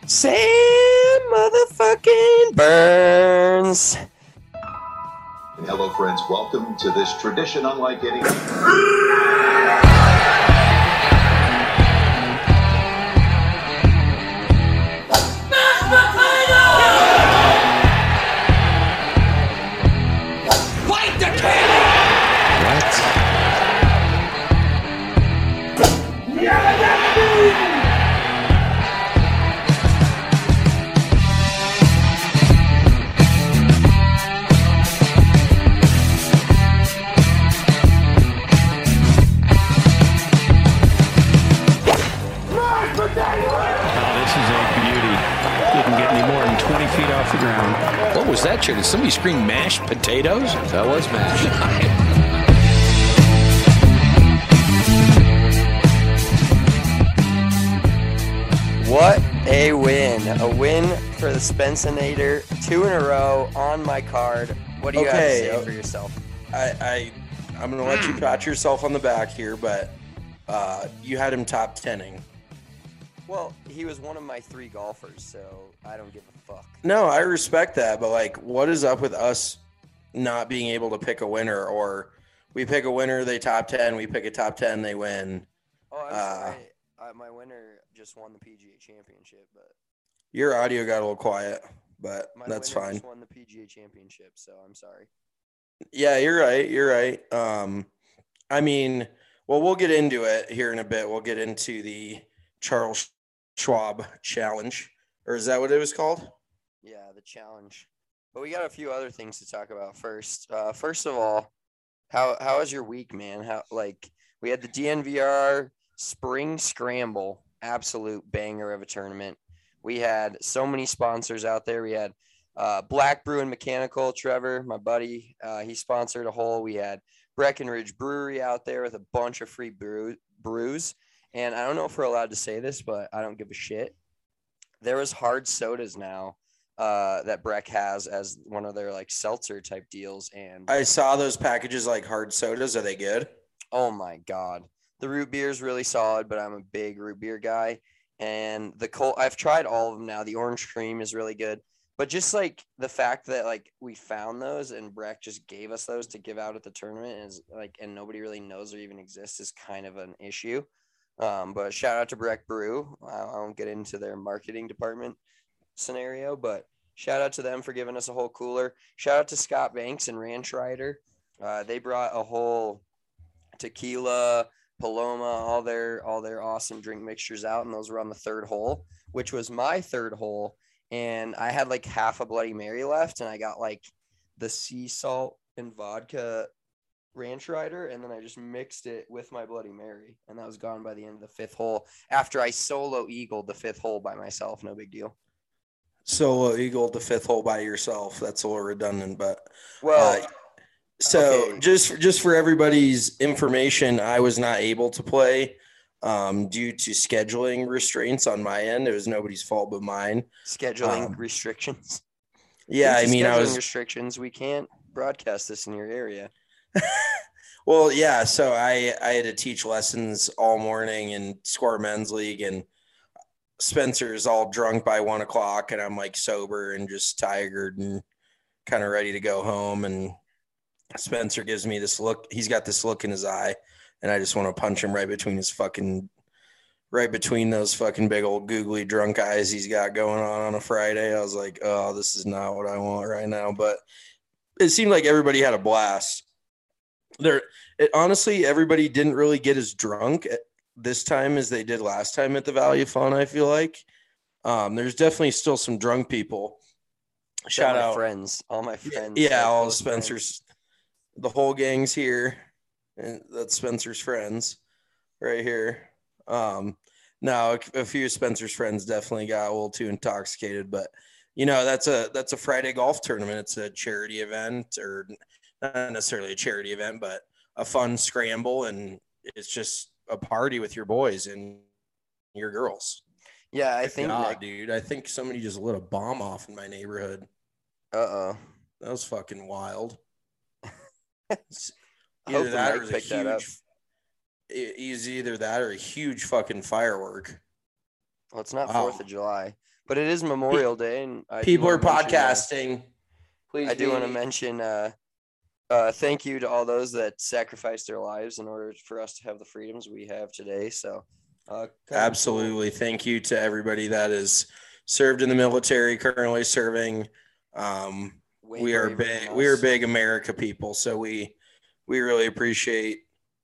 Sam motherfucking Burns. Hello, friends. Welcome to this tradition unlike any. Fight the cannon! Didn't get any more than 20 feet off the ground. What was that, Chair? Did somebody scream mashed potatoes? That was mashed. What a win. A win for the Spencenator. 2 in a row on my card. What do you have to say for yourself? I'm going to let you pat yourself on the back here, but you had him top 10ing. Well, he was one of my 3 golfers, so I don't give a fuck. No, I respect that, but like, what is up with us not being able to pick a winner? Or we pick a winner, they top 10, we pick a top 10, they win. Oh, I'm sorry. My winner just won the PGA Championship, but Your audio got a little quiet, but that's winner fine. just won the PGA Championship, so I'm sorry. Yeah, you're right. I mean, well, we'll get into it here in a bit. We'll get into the Charles Schwab Challenge, or is that what it was called? Yeah, the challenge. But we got a few other things to talk about first. First of all, how was your week, man? We had the DNVR Spring Scramble, absolute banger of a tournament. We had so many sponsors out there. We had Black Brew and Mechanical, Trevor, my buddy. He sponsored a hole. We had Breckenridge Brewery out there with a bunch of free brews. And I don't know if we're allowed to say this, but I don't give a shit. There was hard sodas now that Breck has as one of their like seltzer type deals. And I saw those packages like hard sodas. Are they good? oh my God. The root beer is really solid, but I'm a big root beer guy. And I've tried all of them now. The orange cream is really good. But just like the fact that like we found those and Breck just gave us those to give out at the tournament is like, and nobody really knows they even exist is kind of an issue. But shout out to Breck Brew. I won't get into their marketing department scenario, but shout out to them for giving us a whole cooler. Shout out to Scott Banks and Ranch Rider. They brought a whole tequila, Paloma, all their awesome drink mixtures out, and those were on the 3rd hole, which was my 3rd hole. And I had like half a Bloody Mary left, and I got like the sea salt and vodka Ranch Rider, and then I just mixed it with my Bloody Mary, and that was gone by the end of the 5th hole after I solo eagled the 5th hole by myself. No big deal. Solo eagle the 5th hole by yourself. That's a little redundant, but Well, so okay. just for everybody's information, I was not able to play due to scheduling restraints on my end. It was nobody's fault but mine. Scheduling restrictions. Yeah, I mean, restrictions. We can't broadcast this in your area. Well, yeah. So I had to teach lessons all morning in Square Men's League, and Spencer's all drunk by 1 o'clock, and I'm like sober and just tired and kind of ready to go home. And Spencer gives me this look. He's got this look in his eye, and I just want to punch him right between those fucking big old googly drunk eyes he's got going on a Friday. I was like, oh, this is not what I want right now. But it seemed like everybody had a blast. Honestly, everybody didn't really get as drunk this time as they did last time at the Valley of Fun, I feel like. There's definitely still some drunk people. Shout out all my friends. Yeah, all Spencer's, the whole gang's here, and that's Spencer's friends right here. Now a few of Spencer's friends definitely got a little too intoxicated, but that's a Friday golf tournament. It's a charity event, or not necessarily a charity event, but a fun scramble, and it's just a party with your boys and your girls. Yeah, I think, dude, I think somebody just lit a bomb off in my neighborhood. Uh-oh. That was fucking wild. Either that or either that or a huge fucking firework. Well, it's not 4th of July. But it is Memorial Day, and People are podcasting. Please. I do want to mention thank you to all those that sacrificed their lives in order for us to have the freedoms we have today. So absolutely. Cool. Thank you to everybody that is served in the military, currently serving. We are big America people. So we really appreciate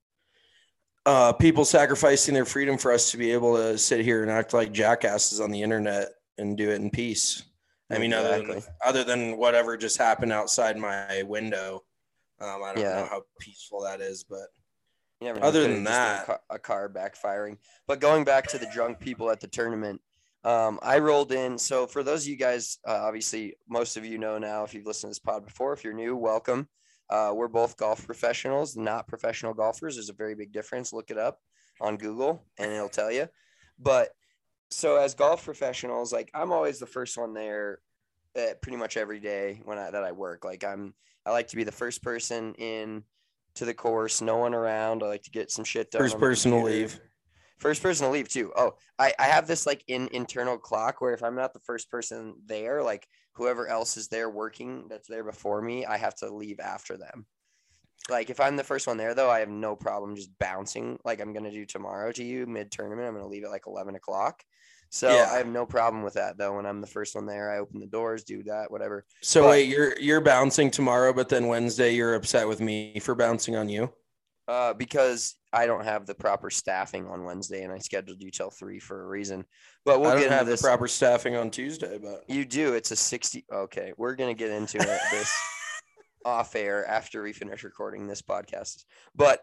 people sacrificing their freedom for us to be able to sit here and act like jackasses on the internet and do it in peace. I mean, other than whatever just happened outside my window, I don't know how peaceful that is, but other than that, a car backfiring. But going back to the drunk people at the tournament, I rolled in. So for those of you guys, obviously most of you know now if you've listened to this pod before. If you're new, welcome. We're both golf professionals, not professional golfers. There's a very big difference. Look it up on Google and it'll tell you. But so as golf professionals, like I'm always the first one there pretty much every day that I work. Like I like to be the first person in to the course, no one around. I like to get some shit done. First person to leave. First person to leave too. Oh, I have this like internal clock where if I'm not the first person there, like whoever else is there working that's there before me, I have to leave after them. Like if I'm the first one there though, I have no problem just bouncing like I'm going to do tomorrow to you mid-tournament. I'm going to leave at like 11 o'clock. So I have no problem with that though. When I'm the first one there, I open the doors, do that, whatever. So wait, you're bouncing tomorrow, but then Wednesday you're upset with me for bouncing on you? Because I don't have the proper staffing on Wednesday and I scheduled you till 3 for a reason. But I don't have the proper staffing on Tuesday, but you do. It's a 60. Okay, we're gonna get into this off air after we finish recording this podcast. But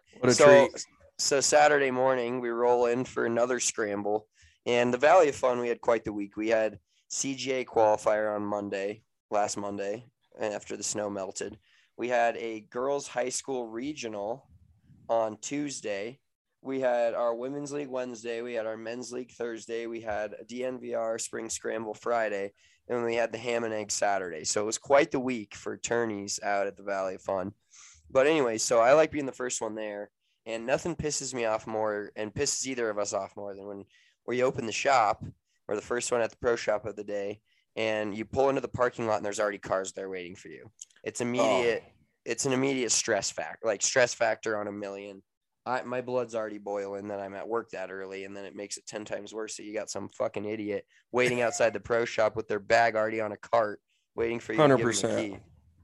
so Saturday morning we roll in for another scramble. And the Valley of Fun, we had quite the week. We had CGA qualifier on last Monday, and after the snow melted. We had a girls' high school regional on Tuesday. We had our women's league Wednesday. We had our men's league Thursday. We had a DNVR spring scramble Friday. And we had the ham and egg Saturday. So it was quite the week for tourneys out at the Valley of Fun. But anyway, so I like being the first one there. And nothing pisses me off more and pisses either of us off more than when you open the shop or the first one at the pro shop of the day and you pull into the parking lot and there's already cars there waiting for you. It's immediate. It's an immediate stress factor on a million. My blood's already boiling that I'm at work that early, and then it makes it 10 times worse. So you got some fucking idiot waiting outside the pro shop with their bag already on a cart waiting for you 100%. To give them the key.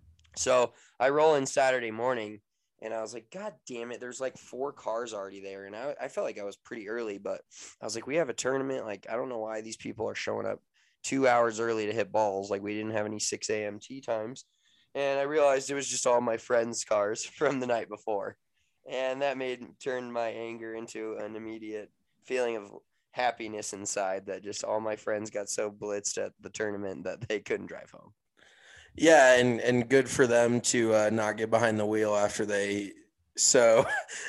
So I roll in Saturday morning, and I was like, God damn it, there's like 4 cars already there. And I felt like I was pretty early, but I was like, we have a tournament. Like, I don't know why these people are showing up 2 hours early to hit balls. Like, we didn't have any 6 a.m. tee times. And I realized it was just all my friends' cars from the night before. And that turned my anger into an immediate feeling of happiness inside that just all my friends got so blitzed at the tournament that they couldn't drive home. Yeah, and good for them to not get behind the wheel after they so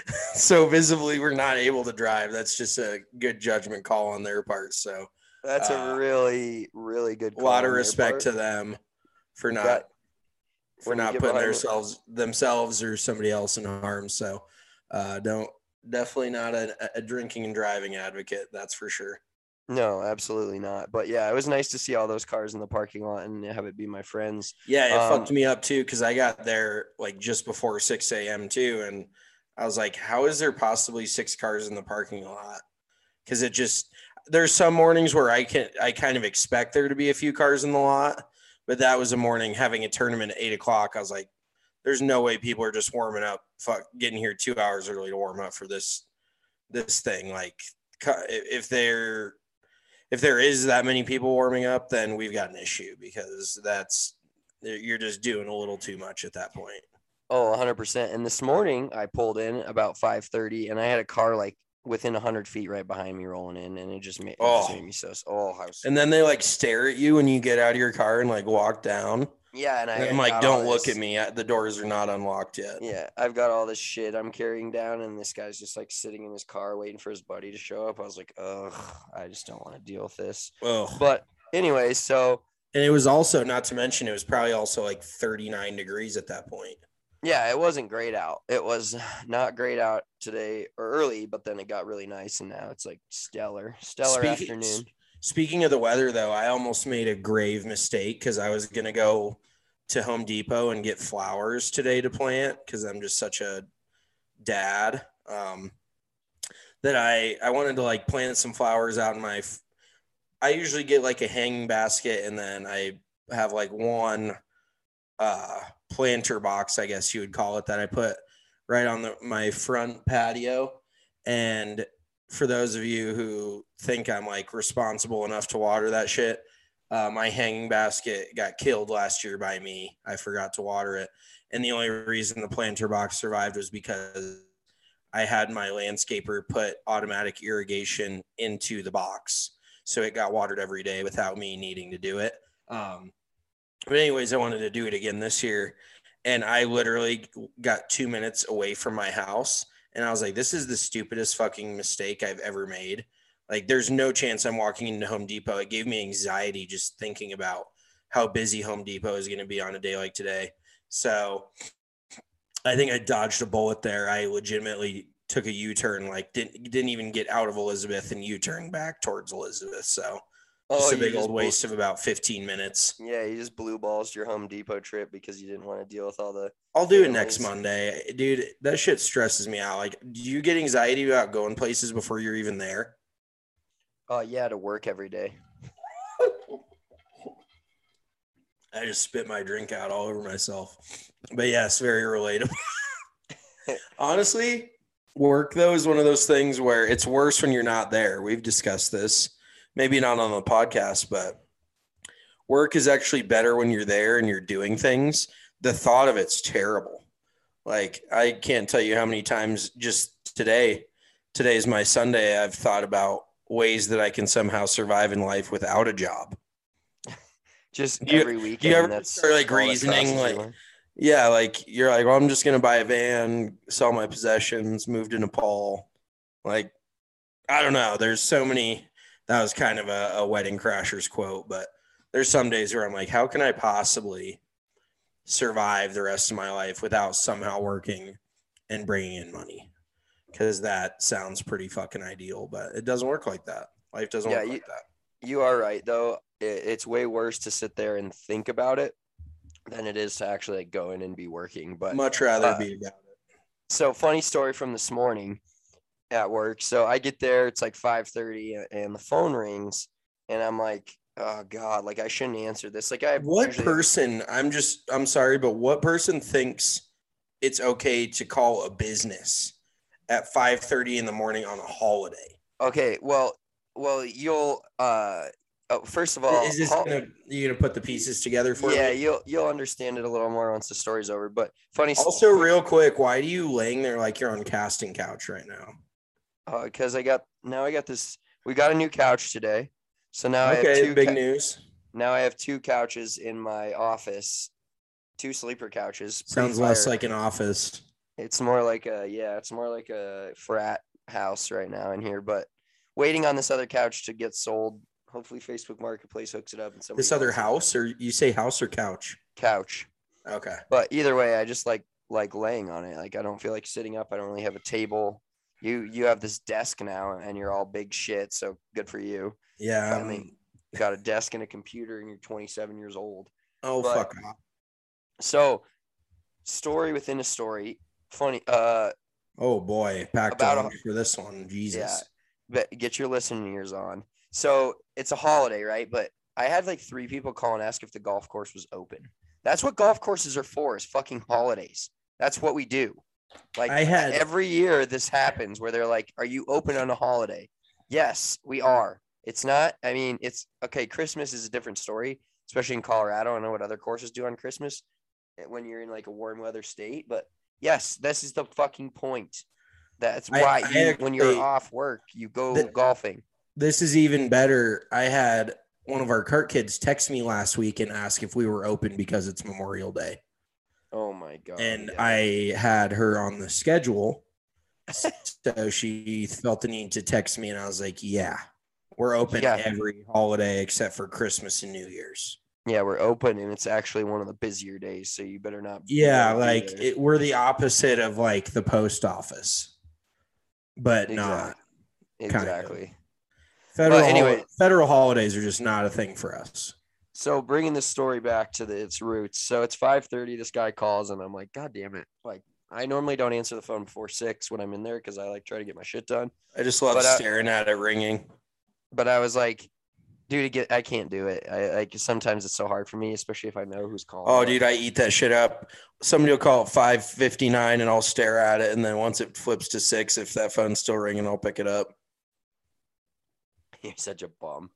visibly were not able to drive. That's just a good judgment call on their part. So that's a really, really good call. A lot of respect to them for not putting themselves or somebody else in harm. So definitely not a drinking and driving advocate. That's for sure. No, absolutely not. But yeah, it was nice to see all those cars in the parking lot and have it be my friends. Yeah, it fucked me up too because I got there like just before 6 a.m. too, and I was like, "How is there possibly 6 cars in the parking lot?" Because there's some mornings where I kind of expect there to be a few cars in the lot, but that was a morning having a tournament at 8 o'clock. I was like, "There's no way people are just warming up, getting here 2 hours early to warm up for this thing." Like, if there is that many people warming up, then we've got an issue because you're just doing a little too much at that point. Oh, 100%. And this morning I pulled in about 5:30 and I had a car like within 100 feet right behind me rolling in, and it just made me so. And then they like stare at you when you get out of your car and like walk down. Yeah, and I'm like, don't look at me. The doors are not unlocked yet. Yeah, I've got all this shit I'm carrying down, and this guy's just like sitting in his car waiting for his buddy to show up. I was like, ugh, I just don't want to deal with this. Ugh. But anyway, so. And it was also, not to mention, it was probably also like 39 degrees at that point. Yeah, it wasn't great out. It was not great out today or early, but then it got really nice, and now it's like stellar afternoon. Speaking of the weather, though, I almost made a grave mistake because I was going to go to Home Depot and get flowers today to plant because I'm just such a dad that I wanted to like plant some flowers out in my I usually get like a hanging basket and then I have like one planter box, I guess you would call it, that I put right on my front patio. And for those of you who think I'm like responsible enough to water that shit, my hanging basket got killed last year by me. I forgot to water it. And the only reason the planter box survived was because I had my landscaper put automatic irrigation into the box. So it got watered every day without me needing to do it. But anyways, I wanted to do it again this year. And I literally got 2 minutes away from my house. And I was like, this is the stupidest fucking mistake I've ever made. Like, there's no chance I'm walking into Home Depot. It gave me anxiety just thinking about how busy Home Depot is going to be on a day like today. So I think I dodged a bullet there. I legitimately took a U-turn, like didn't even get out of Elizabeth and U-turned back towards Elizabeth. So just a big old waste of about 15 minutes. Yeah, you just blue balls your Home Depot trip because you didn't want to deal with all the. I'll do it next Monday, dude. That shit stresses me out. Like, do you get anxiety about going places before you're even there? Yeah, to work every day. I just spit my drink out all over myself. But yes, very relatable. Honestly, work though is one of those things where it's worse when you're not there. We've discussed this, maybe not on the podcast, but work is actually better when you're there and you're doing things. The thought of it's terrible. Like, I can't tell you how many times just today's my Sunday, I've thought about ways that I can somehow survive in life without a job. Just every weekend. Do you ever start like reasoning like, yeah, like you're like, well, I'm just going to buy a van, sell my possessions, move to Nepal. Like, I don't know. There's so many, that was kind of a Wedding Crashers quote, but there's some days where I'm like, how can I possibly survive the rest of my life without somehow working and bringing in money? Because that sounds pretty fucking ideal, but it doesn't work like that. Life doesn't work like that. You are right, though. It's way worse to sit there and think about it than it is to actually like go in and be working. But much rather be about it. So funny story from this morning at work. So I get there, it's like 5:30 and the phone rings and I'm like, oh God, like I shouldn't answer this. Like I'm sorry, but what person thinks it's okay to call a business at 5:30 in the morning on a holiday? Okay. Well, you'll, first of all, is this you gonna put the pieces together for me? Yeah, you'll understand it a little more once the story's over. But funny. Also, real quick, why are you laying there like you're on casting couch right now? Because I got this. We got a new couch today, so now I have two big news. Now I have two couches in my office, two sleeper couches. Sounds less like an office. It's more like a frat house right now in here, but waiting on this other couch to get sold. Hopefully Facebook Marketplace hooks it up. And this other house, or you say house or couch? Couch. Okay. But either way, I just like laying on it. Like I don't feel like sitting up. I don't really have a table. You have this desk now and you're all big shit. So good for you. Yeah. I mean, you got a desk and a computer and you're 27 years old. Oh, fuck off. So story within a story. Funny. Oh boy. Packed on for this one. Jesus. Yeah. But get your listening ears on. So it's a holiday, right? But I had like 3 people call and ask if the golf course was open. That's what golf courses are for, is fucking holidays. That's what we do. Like every year this happens where they're like, are you open on a holiday? Yes, we are. It's not, I mean, it's okay. Christmas is a different story, especially in Colorado. I don't know what other courses do on Christmas when you're in like a warm weather state, but yes, this is the fucking point. That's why when you're off work, you go golfing. This is even better. I had one of our cart kids text me last week and ask if we were open because it's Memorial Day. Oh my God. And yeah. I had her on the schedule. So she felt the need to text me and I was like, yeah, we're open every holiday except for Christmas and New Year's. Yeah, we're open and it's actually one of the busier days. So you better not. Yeah. Like we're the opposite of like the post office, but not. Exactly. Federal holidays are just not a thing for us. So bringing this story back to its roots. So it's 5:30. This guy calls, and I'm like, God damn it! Like, I normally don't answer the phone before 6 when I'm in there because I like try to get my shit done. I just love staring at it ringing. But I was like, dude, I can't do it. I like sometimes it's so hard for me, especially if I know who's calling. Oh, dude, I eat that shit up. Somebody will call at 5:59, and I'll stare at it, and then once it flips to 6, if that phone's still ringing, I'll pick it up. You're such a bum.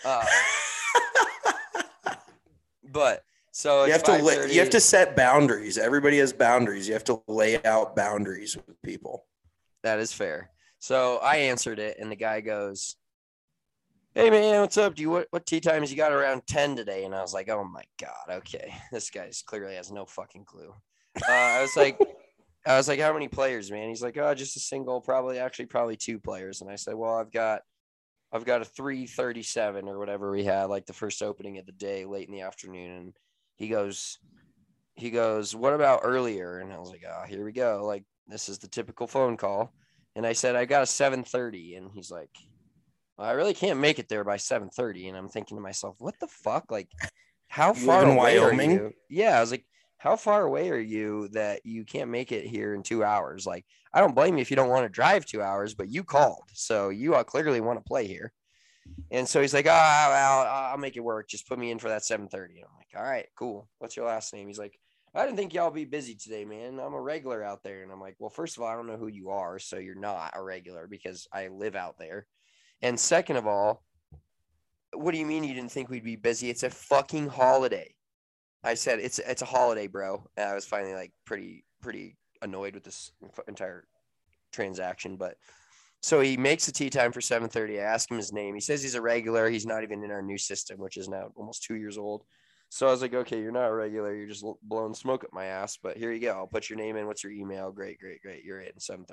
But so you have to set boundaries. Everybody has boundaries. You have to lay out boundaries with people. That is fair. So I answered it, and the guy goes, "Hey man, what's up? What tea times you got around 10 today?" And I was like, "Oh my god, okay, this guy's clearly has no fucking clue." I was like, "How many players, man?" He's like, "Oh, just a single, probably 2 players." And I said, "Well, I've got a 337 or whatever we had, like the first opening of the day, late in the afternoon." And he goes, "What about earlier?" And I was like, "Oh, here we go. Like, this is the typical phone call." And I said, "I got a 7:30." And he's like, "Well, I really can't make it there by 7:30." And I'm thinking to myself, what the fuck? Like, how far away are you? Yeah. I was like, how far away are you that you can't make it here in 2 hours? Like, I don't blame you if you don't want to drive 2 hours, but you called. So you clearly want to play here. And so he's like, I'll make it work. Just put me in for that 7:30. And I'm like, all right, cool. What's your last name? He's like, I didn't think y'all be busy today, man. I'm a regular out there. And I'm like, well, first of all, I don't know who you are. So you're not a regular because I live out there. And second of all, what do you mean you didn't think we'd be busy? It's a fucking holiday. I said, it's a holiday, bro. And I was finally like pretty annoyed with this entire transaction. But so he makes the tea time for 7:30. I ask him his name. He says he's a regular. He's not even in our new system, which is now almost 2 years old. So I was like, okay, you're not a regular. You're just blowing smoke up my ass. But here you go. I'll put your name in. What's your email? Great. You're in 7:30.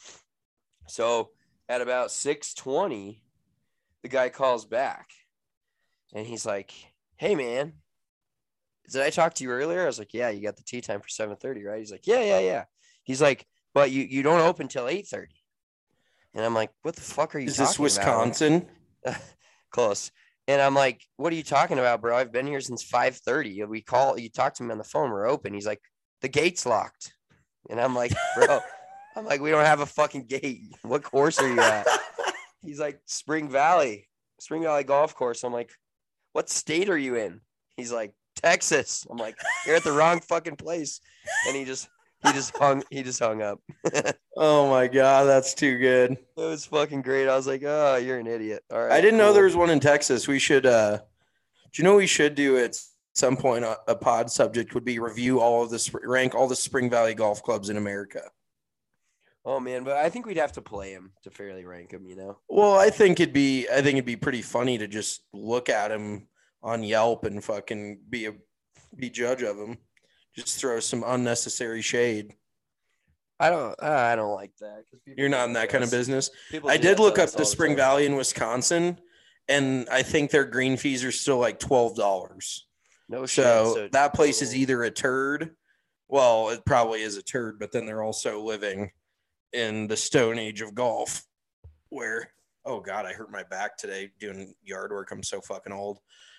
So at about 6:20, the guy calls back. And he's like, hey, man, did I talk to you earlier? I was like, yeah, you got the tea time for 7:30, right? He's like, yeah. He's like, but you don't open till 8:30. And I'm like, what the fuck are you talking about? Is this Wisconsin? Close. And I'm like, what are you talking about, bro? I've been here since 5:30. You talk to me on the phone, we're open. He's like, the gate's locked. And I'm like, bro, we don't have a fucking gate. What course are you at? He's like, Spring Valley Golf Course. I'm like, what state are you in? He's like, Texas. I'm like, you're at the wrong fucking place. And he just hung up. Oh my god, that's too good. It was fucking great. I was like, oh, you're an idiot. All right. I didn't know there was one in Texas. We should do you know what we should do at some point? A pod subject would be rank all the Spring Valley golf clubs in America. Oh man, but I think we'd have to play him to fairly rank him, you know. Well, I think it'd be pretty funny to just look at him on Yelp and fucking be judge of him. Just throw some unnecessary shade. I don't like that. You're not in that kind of business. I did look up the Spring Valley in Wisconsin, and I think their green fees are still like $12. No shit. So that place is either a turd. Well, it probably is a turd, but then they're also living in the Stone Age of golf where, oh God, I hurt my back today doing yard work. I'm so fucking old.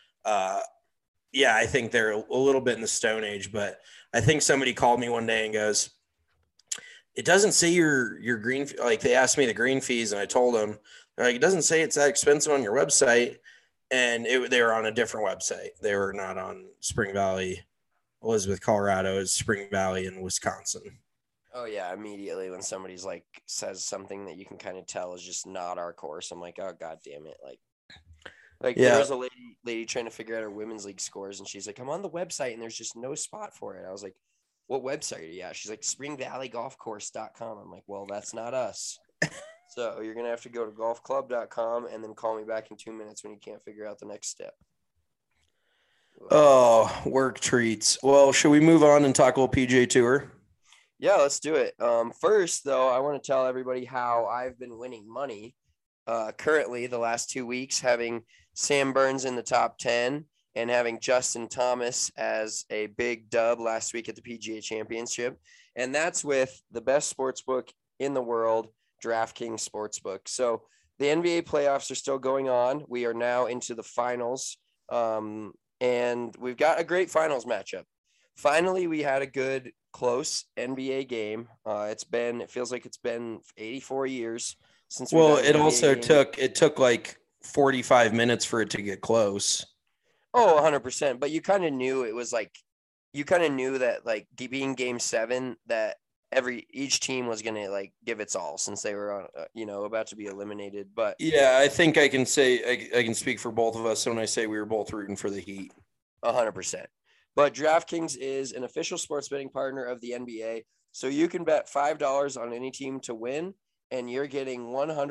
Yeah, I think they're a little bit in the Stone Age, but I think somebody called me one day and goes, it doesn't say your green, like they asked me the green fees and I told them, they're like, it doesn't say it's that expensive on your website. And they were on a different website. They were not on Spring Valley, Elizabeth, Colorado. It's Spring Valley in Wisconsin. Oh yeah, immediately when somebody's like says something that you can kind of tell is just not our course, I'm like, oh God damn it. Like yeah. There was a lady trying to figure out her women's league scores, and she's like, I'm on the website and there's just no spot for it. I was like, what website are you at? She's like, springvalleygolfcourse.com. I'm like, well, that's not us. So you're going to have to go to golfclub.com and then call me back in 2 minutes when you can't figure out the next step. Oh, work treats. Well, should we move on and talk a little PGA Tour? Yeah, let's do it. First, though, I want to tell everybody how I've been winning money currently the last 2 weeks, having Sam Burns in the top 10 and having Justin Thomas as a big dub last week at the PGA Championship. And that's with the best sportsbook in the world, DraftKings Sportsbook. So the NBA playoffs are still going on. We are now into the finals, and we've got a great finals matchup. Finally, we had a good, close NBA game. It feels like it's been 84 years since. Well, it took like 45 minutes for it to get close. Oh, 100%. But you kind of knew it was like, you kind of knew that like being game 7, that each team was going to like give its all since they were about to be eliminated. But yeah, I think I can say I can speak for both of us when I say we were both rooting for the Heat. 100%. But DraftKings is an official sports betting partner of the NBA. So you can bet $5 on any team to win, and you're getting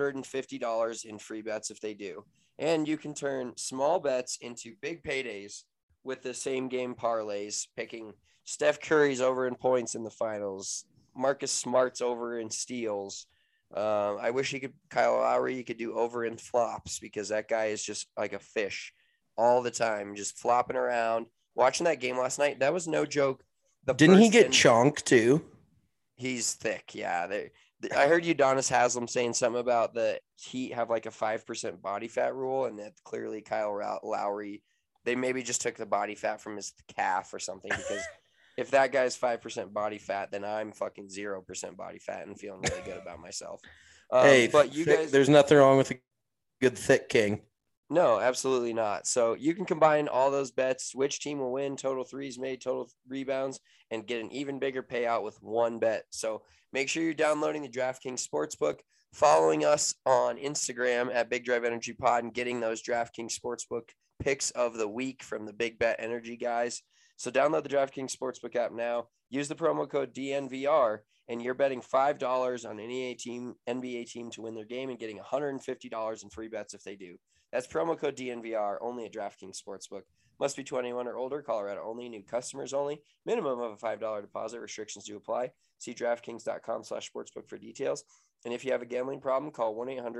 $150 in free bets if they do. And you can turn small bets into big paydays with the same game parlays, picking Steph Curry's over in points in the finals, Marcus Smart's over in steals. I wish Kyle Lowry, you could do over in flops, because that guy is just like a fish all the time, just flopping around. Watching that game last night, that was no joke. Didn't he get chonked too? He's thick, yeah. I heard Udonis Haslem saying something about the Heat have like a 5% body fat rule, and that clearly Kyle Lowry, they maybe just took the body fat from his calf or something, because if that guy's 5% body fat, then I'm fucking 0% body fat and feeling really good about myself. But you guys, there's nothing wrong with a good thick king. No, absolutely not. So you can combine all those bets, which team will win, total threes made, total rebounds, and get an even bigger payout with one bet. So make sure you're downloading the DraftKings Sportsbook, following us on Instagram at Big Drive Energy Pod, and getting those DraftKings Sportsbook picks of the week from the Big Bet Energy guys. So download the DraftKings Sportsbook app now. Use the promo code DNVR, and you're betting $5 on any NBA team to win their game and getting $150 in free bets if they do. That's promo code DNVR, only at DraftKings Sportsbook. Must be 21 or older, Colorado only, new customers only. Minimum of a $5 deposit. Restrictions do apply. See DraftKings.com/sportsbook for details. And if you have a gambling problem, call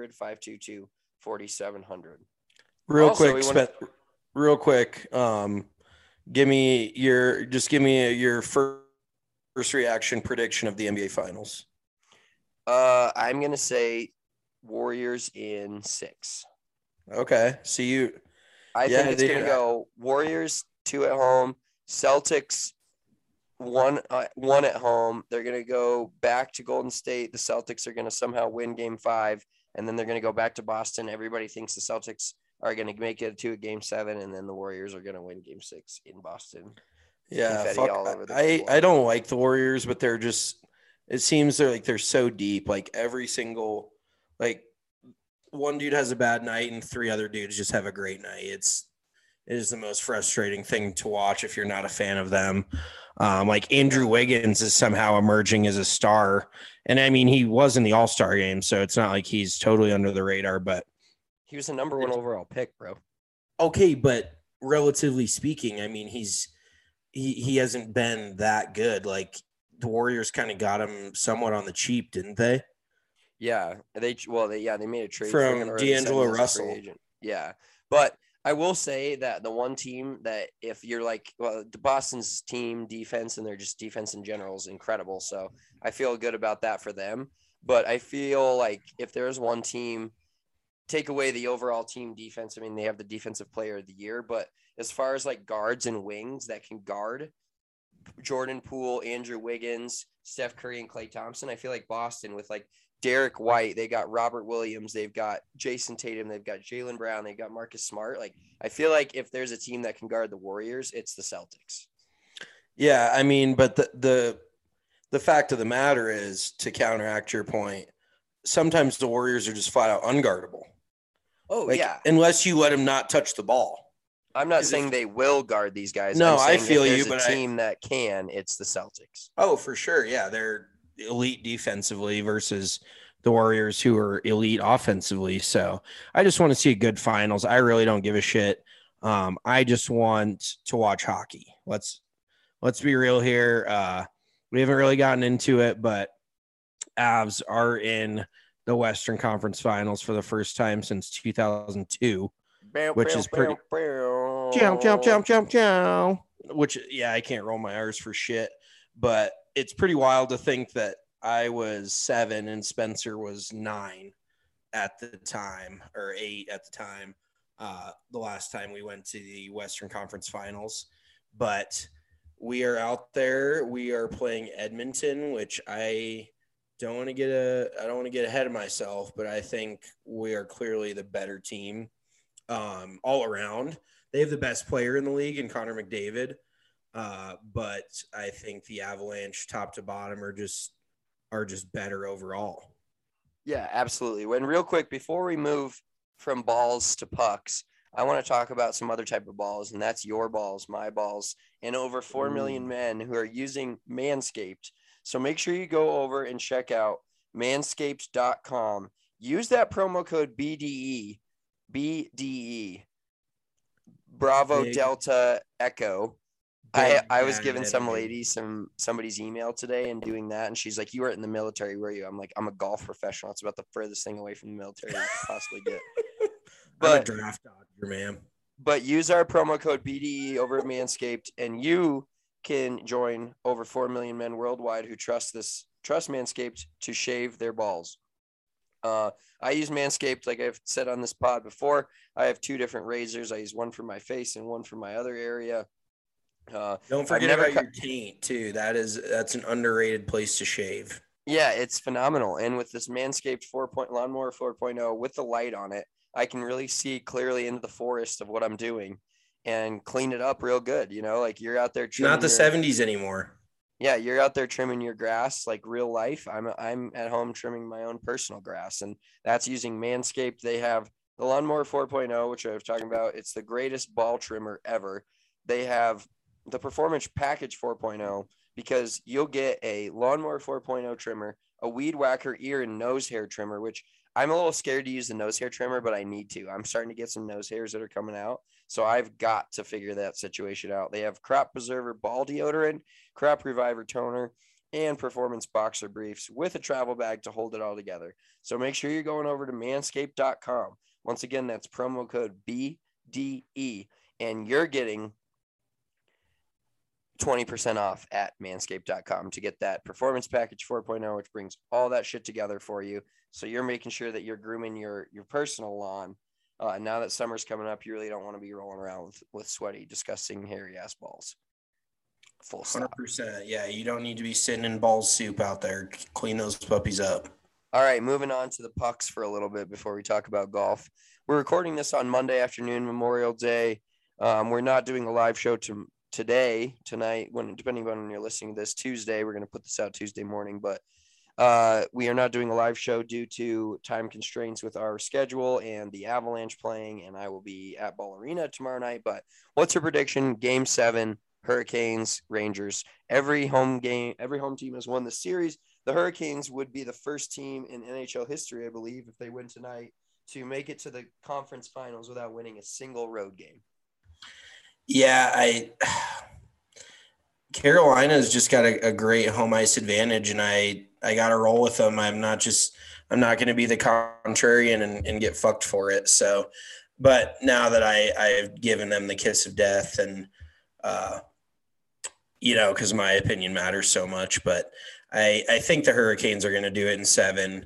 1-800-522-4700. Real quick. Give me your first reaction prediction of the NBA Finals. I'm going to say Warriors in 6. Okay. I think it's going to go Warriors 2 at home, Celtics 1 at home. They're going to go back to Golden State. The Celtics are going to somehow win game 5, and then they're going to go back to Boston. Everybody thinks the Celtics are going to make it to a game 7, and then the Warriors are going to win game 6 in Boston. Yeah. I don't like the Warriors, but it seems they're so deep. Like every single, like, one dude has a bad night and 3 other dudes just have a great night. It is the most frustrating thing to watch if you're not a fan of them. Like Andrew Wiggins is somehow emerging as a star. And I mean, he was in the All-Star game, so it's not like he's totally under the radar, but he was the number 1 overall pick, bro. Okay. But relatively speaking, I mean, he hasn't been that good. Like the Warriors kind of got him somewhat on the cheap, didn't they? Yeah, they made a trade from D'Angelo Russell. Yeah, but I will say that the one team that if you're like, well, the Boston's team defense and their just defense in general is incredible. So I feel good about that for them. But I feel like if there's one team, take away the overall team defense. I mean, they have the defensive player of the year, but as far as like guards and wings that can guard Jordan Poole, Andrew Wiggins, Steph Curry, and Klay Thompson, I feel like Boston with like Derek White, they got Robert Williams, they've got Jason Tatum, they've got Jaylen Brown, they've got Marcus Smart. Like, I feel like if there's a team that can guard the Warriors, it's the Celtics. Yeah, I mean, but the fact of the matter is, to counteract your point, sometimes the Warriors are just flat out unguardable. Oh, like, yeah. Unless you let them not touch the ball. I'm not saying they will guard these guys. No, I feel you, but a team that can, it's the Celtics. Oh, for sure. Yeah, they're elite defensively versus the Warriors, who are elite offensively. So I just want to see a good finals. I really don't give a shit. I just want to watch hockey. Let's be real here. We haven't really gotten into it, but Avs are in the Western Conference Finals for the first time since 2002, which is pretty. Which, yeah, I can't roll my R's for shit, but it's pretty wild to think that I was 7 and Spencer was 9 at the time, or 8 at the time, the last time we went to the Western Conference Finals. But we are out there. We are playing Edmonton, which I don't want to get ahead of myself, but I think we are clearly the better team all around. They have the best player in the league in Connor McDavid. But I think the Avalanche top to bottom are just better overall. Yeah, absolutely. When real quick, before we move from balls to pucks, I want to talk about some other type of balls, and that's your balls, my balls, and over 4 million men who are using Manscaped. So make sure you go over and check out manscaped.com. Use that promo code BDE, Bravo Delta Echo. I was giving some lady somebody's email today and doing that, and she's like, "You weren't in the military, were you?" I'm like, "I'm a golf professional. It's about the furthest thing away from the military you could possibly get." I'm a draft dodger, man. But use our promo code BDE over at Manscaped, and you can join over 4 million men worldwide who trust Manscaped to shave their balls. I use Manscaped, like I've said on this pod before. I have 2 different razors. I use one for my face and one for my other area. Don't forget about your taint too. That's an underrated place to shave. Yeah, it's phenomenal. And with this Manscaped Lawnmower 4.0 with the light on it, I can really see clearly into the forest of what I'm doing and clean it up real good. You know, like you're out there trimming not the 70s anymore. Yeah, you're out there trimming your grass like real life. I'm at home trimming my own personal grass, and that's using Manscaped. They have the Lawnmower 4.0, which I was talking about. It's the greatest ball trimmer ever. They have the Performance Package 4.0, because you'll get a Lawnmower 4.0 trimmer, a Weed Whacker ear and nose hair trimmer, which I'm a little scared to use the nose hair trimmer, but I need to. I'm starting to get some nose hairs that are coming out, so I've got to figure that situation out. They have Crop Preserver ball deodorant, Crop Reviver toner, and Performance boxer briefs with a travel bag to hold it all together. So make sure you're going over to manscaped.com. Once again, that's promo code BDE, and you're getting 20% off at manscaped.com to get that Performance Package 4.0, which brings all that shit together for you. So you're making sure that you're grooming your personal lawn. Now that summer's coming up, you really don't want to be rolling around with sweaty, disgusting, hairy ass balls. Full stop. 100%. Yeah, you don't need to be sitting in ball soup out there. Clean those puppies up. All right, moving on to the pucks for a little bit before we talk about golf. We're recording this on Monday afternoon, Memorial Day. We're not doing a live show tonight, depending on when you're listening to this, Tuesday. We're going to put this out Tuesday morning, but we are not doing a live show due to time constraints with our schedule and the Avalanche playing, and I will be at Ball Arena tomorrow night. But what's your prediction? Game 7, Hurricanes, Rangers. Every home team has won the series. The Hurricanes would be the first team in NHL history, I believe, if they win tonight, to make it to the conference finals without winning a single road game. Yeah, Carolina's just got a great home ice advantage, and I got to roll with them. I'm not going to be the contrarian and get fucked for it. So, but now that I've given them the kiss of death, and because my opinion matters so much, but I think the Hurricanes are going to do it in 7.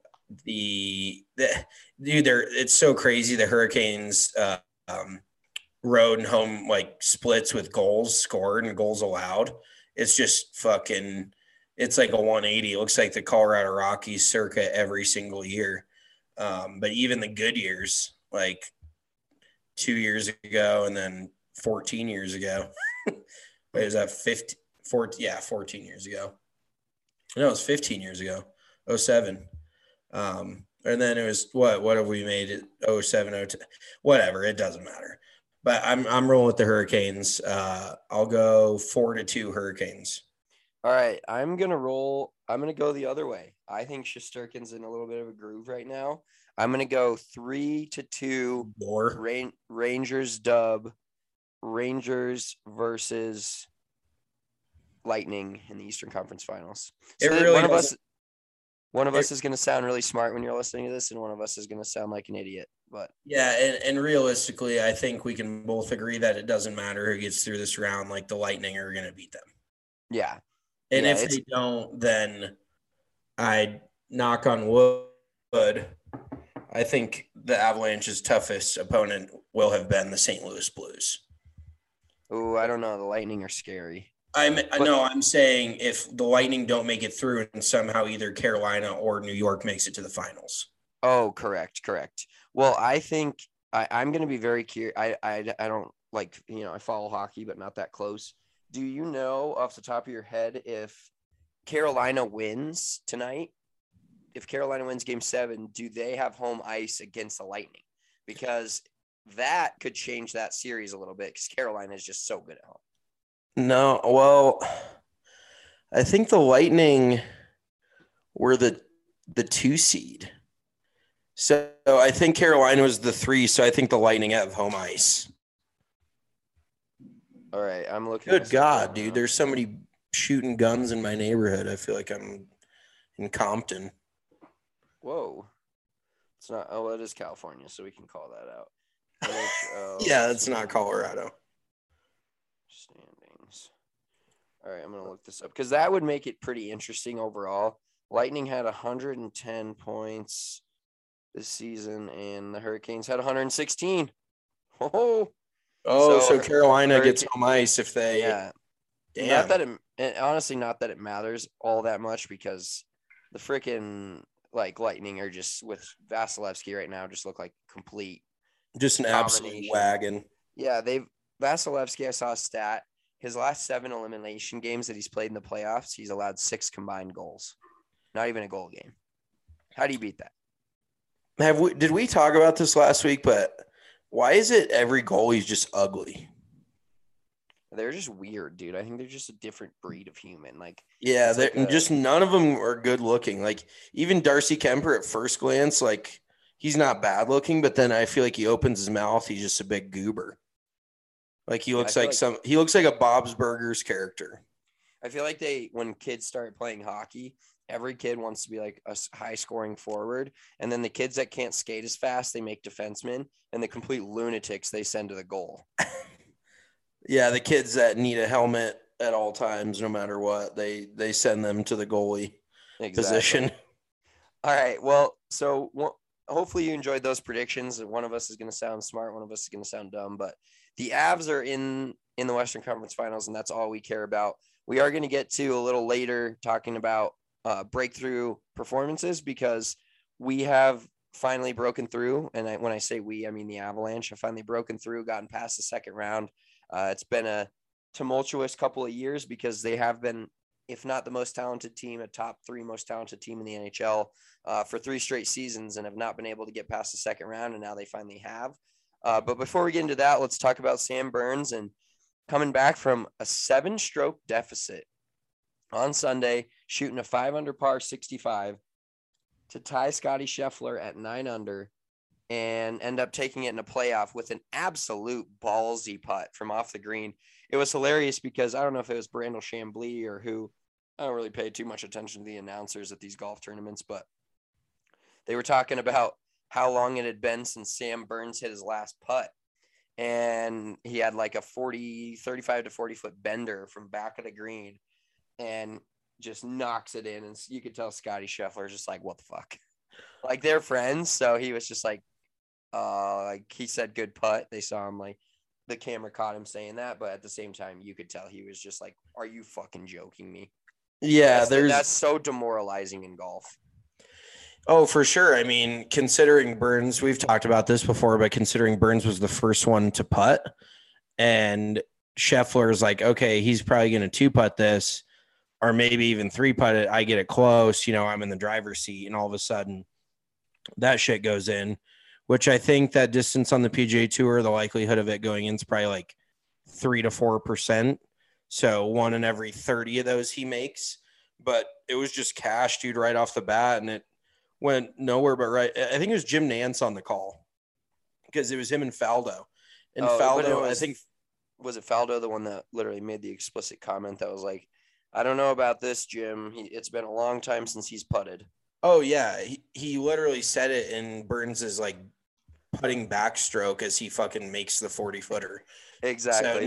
It's so crazy. The Hurricanes road and home splits with goals scored and goals allowed. It's just it's like a 180. It looks like the Colorado Rockies circa every single year. But even the good years, like 2 years ago and then 14 years ago. Wait, is that 14 years ago. No, it was 15 years ago. 07. And then it was what have we made it? 07, 02, whatever. It doesn't matter. But I'm rolling with the Hurricanes. I'll go 4-2 Hurricanes. All right, I'm gonna go the other way. I think Shesterkin's in a little bit of a groove right now. I'm gonna go 3-2. Rangers dub. Rangers versus Lightning in the Eastern Conference Finals. So one of us is going to sound really smart when you're listening to this, and one of us is going to sound like an idiot. But yeah, and realistically, I think we can both agree that it doesn't matter who gets through this round. Like, the Lightning are going to beat them. Yeah. And if they don't, then I knock on wood. I think the Avalanche's toughest opponent will have been the St. Louis Blues. Oh, I don't know. The Lightning are scary. I'm saying if the Lightning don't make it through and somehow either Carolina or New York makes it to the finals. Oh, correct. Well, I think I'm going to be very curious. I don't like, I follow hockey, but not that close. Do you know off the top of your head if Carolina wins tonight? If Carolina wins game 7, do they have home ice against the Lightning? Because that could change that series a little bit because Carolina is just so good at home. No, well, I think the Lightning were the 2 seed. So I think Carolina was the 3, so I think the Lightning have home ice. All right, I'm looking. Good God, dude. There's somebody shooting guns in my neighborhood. I feel like I'm in Compton. Whoa. It's not. Oh, it is California, so we can call that out. NHL Yeah, it's not Colorado. Standings. All right, I'm going to look this up because that would make it pretty interesting overall. Lightning had 110 points this season, and the Hurricanes had 116. So Carolina gets home ice if they. Yeah. Damn. Not that honestly, not that it matters all that much because the freaking Lightning are just with Vasilevsky right now just look like complete. Just an absolute wagon. Yeah, Vasilevsky, I saw a stat. His last 7 elimination games that he's played in the playoffs, he's allowed 6 combined goals. Not even a goal game. How do you beat that? Did we talk about this last week? But why is it every goalie's just ugly? They're just weird, dude. I think they're just a different breed of human. Just none of them are good looking. Like even Darcy Kemper at first glance, he's not bad looking, but then I feel like he opens his mouth, he's just a big goober. Like he looks he looks like a Bob's Burgers character. I feel like when kids start playing hockey, every kid wants to be like a high scoring forward. And then the kids that can't skate as fast, they make defensemen, and the complete lunatics they send to the goal. Yeah. The kids that need a helmet at all times, no matter what, they send them to the goalie position. All right. Well, so hopefully you enjoyed those predictions. One of us is going to sound smart. One of us is going to sound dumb, but the Avs are in the Western Conference Finals, and that's all we care about. We are going to get to a little later talking about breakthrough performances because we have finally broken through. And when I say we, I mean the Avalanche have finally broken through, gotten past the second round. It's been a tumultuous couple of years because they have been, if not the most talented team, a top 3 most talented team in the NHL for 3 straight seasons and have not been able to get past the second round. And now they finally have. But before we get into that, let's talk about Sam Burns and coming back from a 7-stroke deficit on Sunday, shooting a 5 under par 65 to tie Scotty Scheffler at 9 under and end up taking it in a playoff with an absolute ballsy putt from off the green. It was hilarious because I don't know if it was Brandel Chambly or who. I don't really pay too much attention to the announcers at these golf tournaments, but they were talking about how long it had been since Sam Burns hit his last putt. And he had like a 35 to 40 foot bender from back of the green and just knocks it in. And you could tell Scotty Scheffler is just like, what the fuck? Like they're friends. So he was just like he said, good putt. They saw him, like the camera caught him saying that. But at the same time, you could tell he was just like, are you fucking joking me? Yeah. That's so demoralizing in golf. Oh, for sure. I mean, considering Burns, we've talked about this before, but considering Burns was the first one to putt and Scheffler is like, okay, he's probably going to 2-putt this or maybe even 3-putt it. I get it close. I'm in the driver's seat and all of a sudden that shit goes in, which I think that distance on the PGA Tour, the likelihood of it going in is probably like 3 to 4%. So 1 in every 30 of those he makes, but it was just cash, dude, right off the bat. And it went nowhere but right. I think it was Jim Nance on the call because it was him and Faldo. And Faldo, I think. Was it Faldo, the one that literally made the explicit comment that was like, I don't know about this, Jim. It's been a long time since he's putted. Oh, yeah. He literally said it in Burns's like putting backstroke as he fucking makes the 40-footer. Exactly. So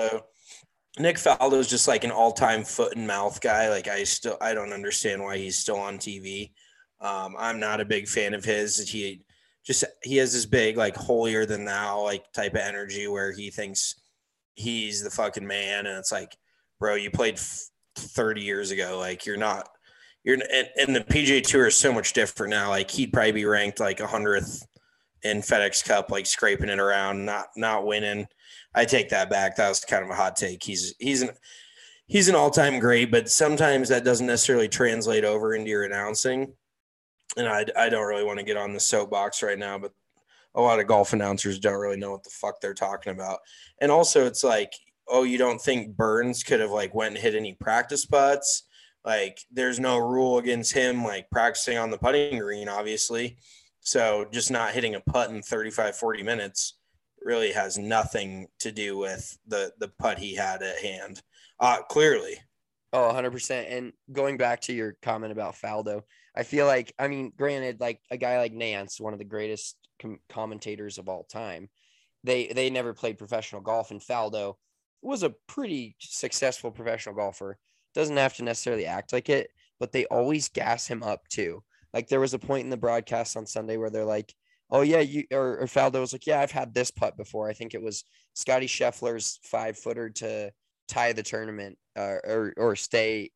Nick Faldo is just like an all-time foot and mouth guy. Like I don't understand why he's still on TV. I'm not a big fan of his. just he has this big, like, holier than thou, like, type of energy where he thinks he's the fucking man. And it's like, bro, you played 30 years ago. Like, you're not, and the PGA Tour is so much different now. Like, he'd probably be ranked like 100th in FedEx Cup, like scraping it around, not winning. I take that back. That was kind of a hot take. He's an all-time great, but sometimes that doesn't necessarily translate over into your announcing. And I don't really want to get on the soapbox right now, but a lot of golf announcers don't really know what the fuck they're talking about. And also it's like, oh, you don't think Burns could have like went and hit any practice putts? Like, there's no rule against him like practicing on the putting green, obviously. So just not hitting a putt in 35, 40 minutes really has nothing to do with the putt he had at hand. Clearly. Oh, 100%. And going back to your comment about Faldo, I feel like, I mean, granted, like a guy like Nance, one of the greatest commentators of all time, they never played professional golf, and Faldo was a pretty successful professional golfer. Doesn't have to necessarily act like it, but they always gas him up too. Like, there was a point in the broadcast on Sunday where they're like, oh yeah, or Faldo was like, yeah, I've had this putt before. I think it was Scotty Scheffler's 5-footer to tie the tournament, or stay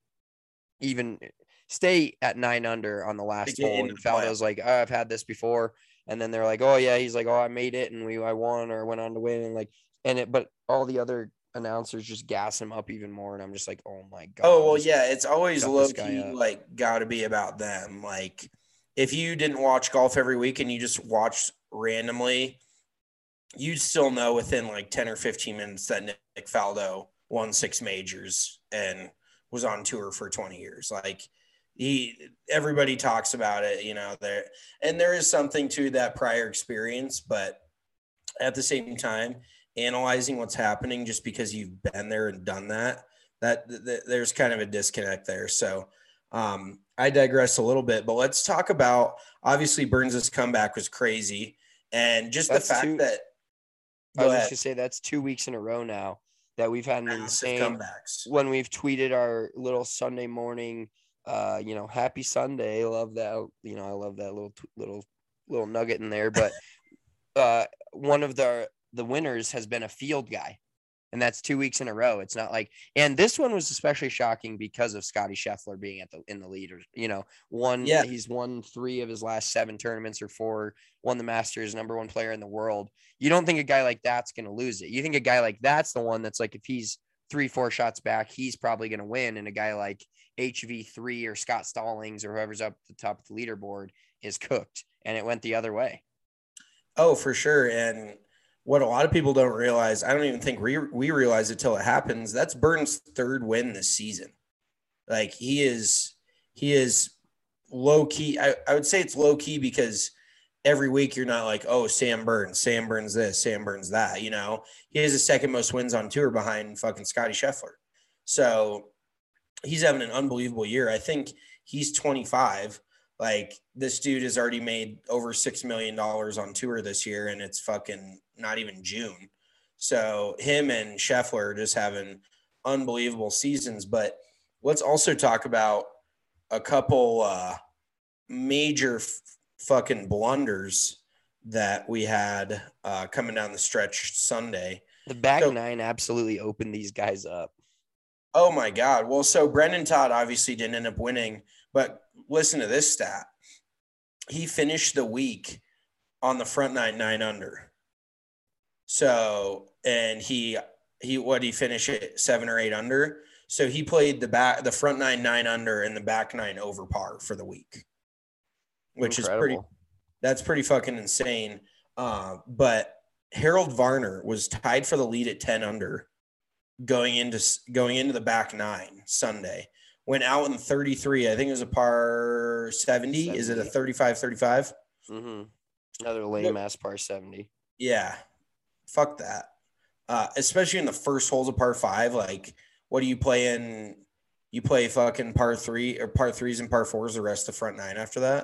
at 9 under on the last hole. And Faldo's like, oh, I've had this before. And then they're like, oh yeah, he's like, oh, I made it and I won or went on to win. And like, but all the other announcers just gas him up even more. And I'm just like, oh my God. Oh, well, yeah, it's always low key, like, gotta be about them. Like, if you didn't watch golf every week and you just watched randomly, you'd still know within like 10 or 15 minutes that Nick Faldo won 6 majors and was on tour for 20 years. Like, everybody talks about it, you know, there is something to that prior experience, but at the same time, analyzing what's happening just because you've been there and done that there's kind of a disconnect there. So I digress a little bit, but let's talk about, obviously Burns' comeback was crazy. And just that's the fact that I was just gonna say that's 2 weeks in a row now that we've had an insane comebacks when we've tweeted our little Sunday morning, happy Sunday. Love that. You know, I love that little nugget in there. But one of the winners has been a field guy, and that's 2 weeks in a row. It's not like, and this one was especially shocking because of Scotty Scheffler being in the lead. He's won 3 of his last 7 tournaments or 4, won the Masters, number 1 player in the world. You don't think a guy like that's going to lose it. You think a guy like that's the one that's like, if he's 3-4 shots back, he's probably going to win. And a guy like HV3 or Scott Stallings or whoever's up at the top of the leaderboard is cooked. And it went the other way. Oh, for sure. And what a lot of people don't realize, I don't even think we realize it till it happens, that's Burns' 3rd win this season. Like, he is low key. I would say it's low key because every week you're not like, oh, Sam Burns this, Sam Burns that, you know. He has the 2nd most wins on tour behind fucking Scotty Scheffler. So he's having an unbelievable year. I think he's 25. Like, this dude has already made over $6 million on tour this year, and it's fucking not even June. So him and Scheffler are just having unbelievable seasons. But let's also talk about a couple major fucking blunders that we had coming down the stretch Sunday. The back 9 absolutely opened these guys up. Oh my God. Well, so Brendan Todd obviously didn't end up winning, but listen to this stat. He finished the week on the front 9 under. So, and he finished at 7 or 8 under. So he played the front 9 under and the back 9 over par for the week, which Incredible. That's pretty fucking insane. But Harold Varner was tied for the lead at 10 under going into the back 9 Sunday. Went out in 33. I think it was a par 70. Is it a 35-35? Mm-hmm. Another lame-ass par 70. Yeah. Fuck that. Especially in the first holes of par 5. Like, what do you play in? You play fucking par 3 or par 3s and par 4s the rest of the front 9 after that?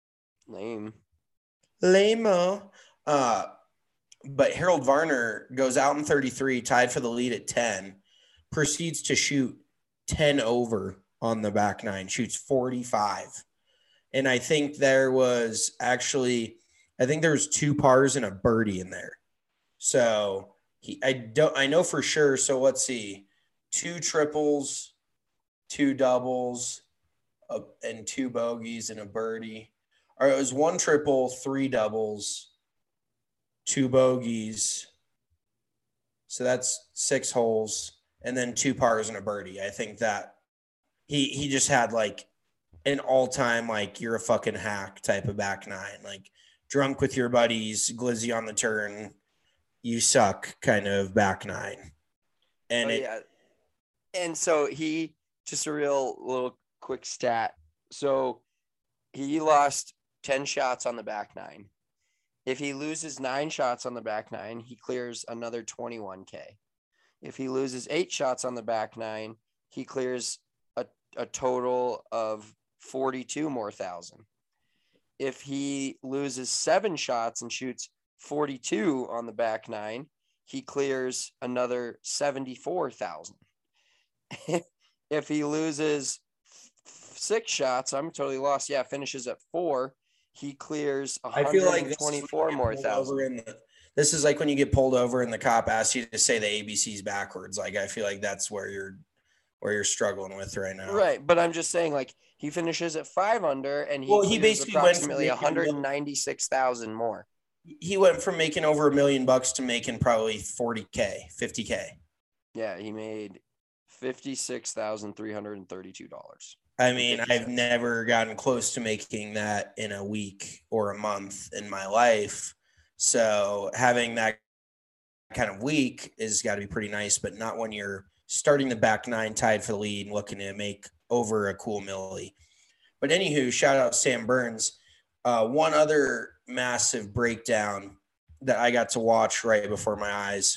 Lame-o. But Harold Varner goes out in 33, tied for the lead at 10, proceeds to shoot 10 over on the back 9, shoots 45. And I think there was actually I think there's 2 pars and a birdie in there. So I know for sure. So let's see, 2 triples, 2 doubles, and 2 bogeys and a birdie. Or it was 1 triple, 3 doubles, 2 bogeys. So that's 6 holes, and then 2 pars and a birdie. I think that he just had like an all-time, like, you're a fucking hack type of back nine, like drunk with your buddies, glizzy on the turn, you suck kind of back nine. And And so he, just a real little quick stat. So he lost 10 shots on the back nine. If he loses 9 shots on the back nine, he clears another 21K. If he loses 8 shots on the back nine, he clears a total of 42 more thousand. If he loses 7 shots and shoots 42 on the back nine, he clears another 74,000. If he loses 6 shots, I'm totally lost. Yeah, finishes at 4. He clears 124 more thousand. This is like when you get pulled over and the cop asks you to say the ABCs backwards. Like, I feel like that's where you're struggling with right now. Right, but I'm just saying, like, he finishes at 5 under, and he basically approximately 196,000 more. He went from making over $1 million to making probably 40K, 50K. Yeah, he made $56,332. I mean, I've never gotten close to making that in a week or a month in my life. So having that kind of week is got to be pretty nice, but not when you're starting the back nine tied for the lead and looking to make over a cool milli. But anywho, shout out Sam Burns. One other massive breakdown that I got to watch right before my eyes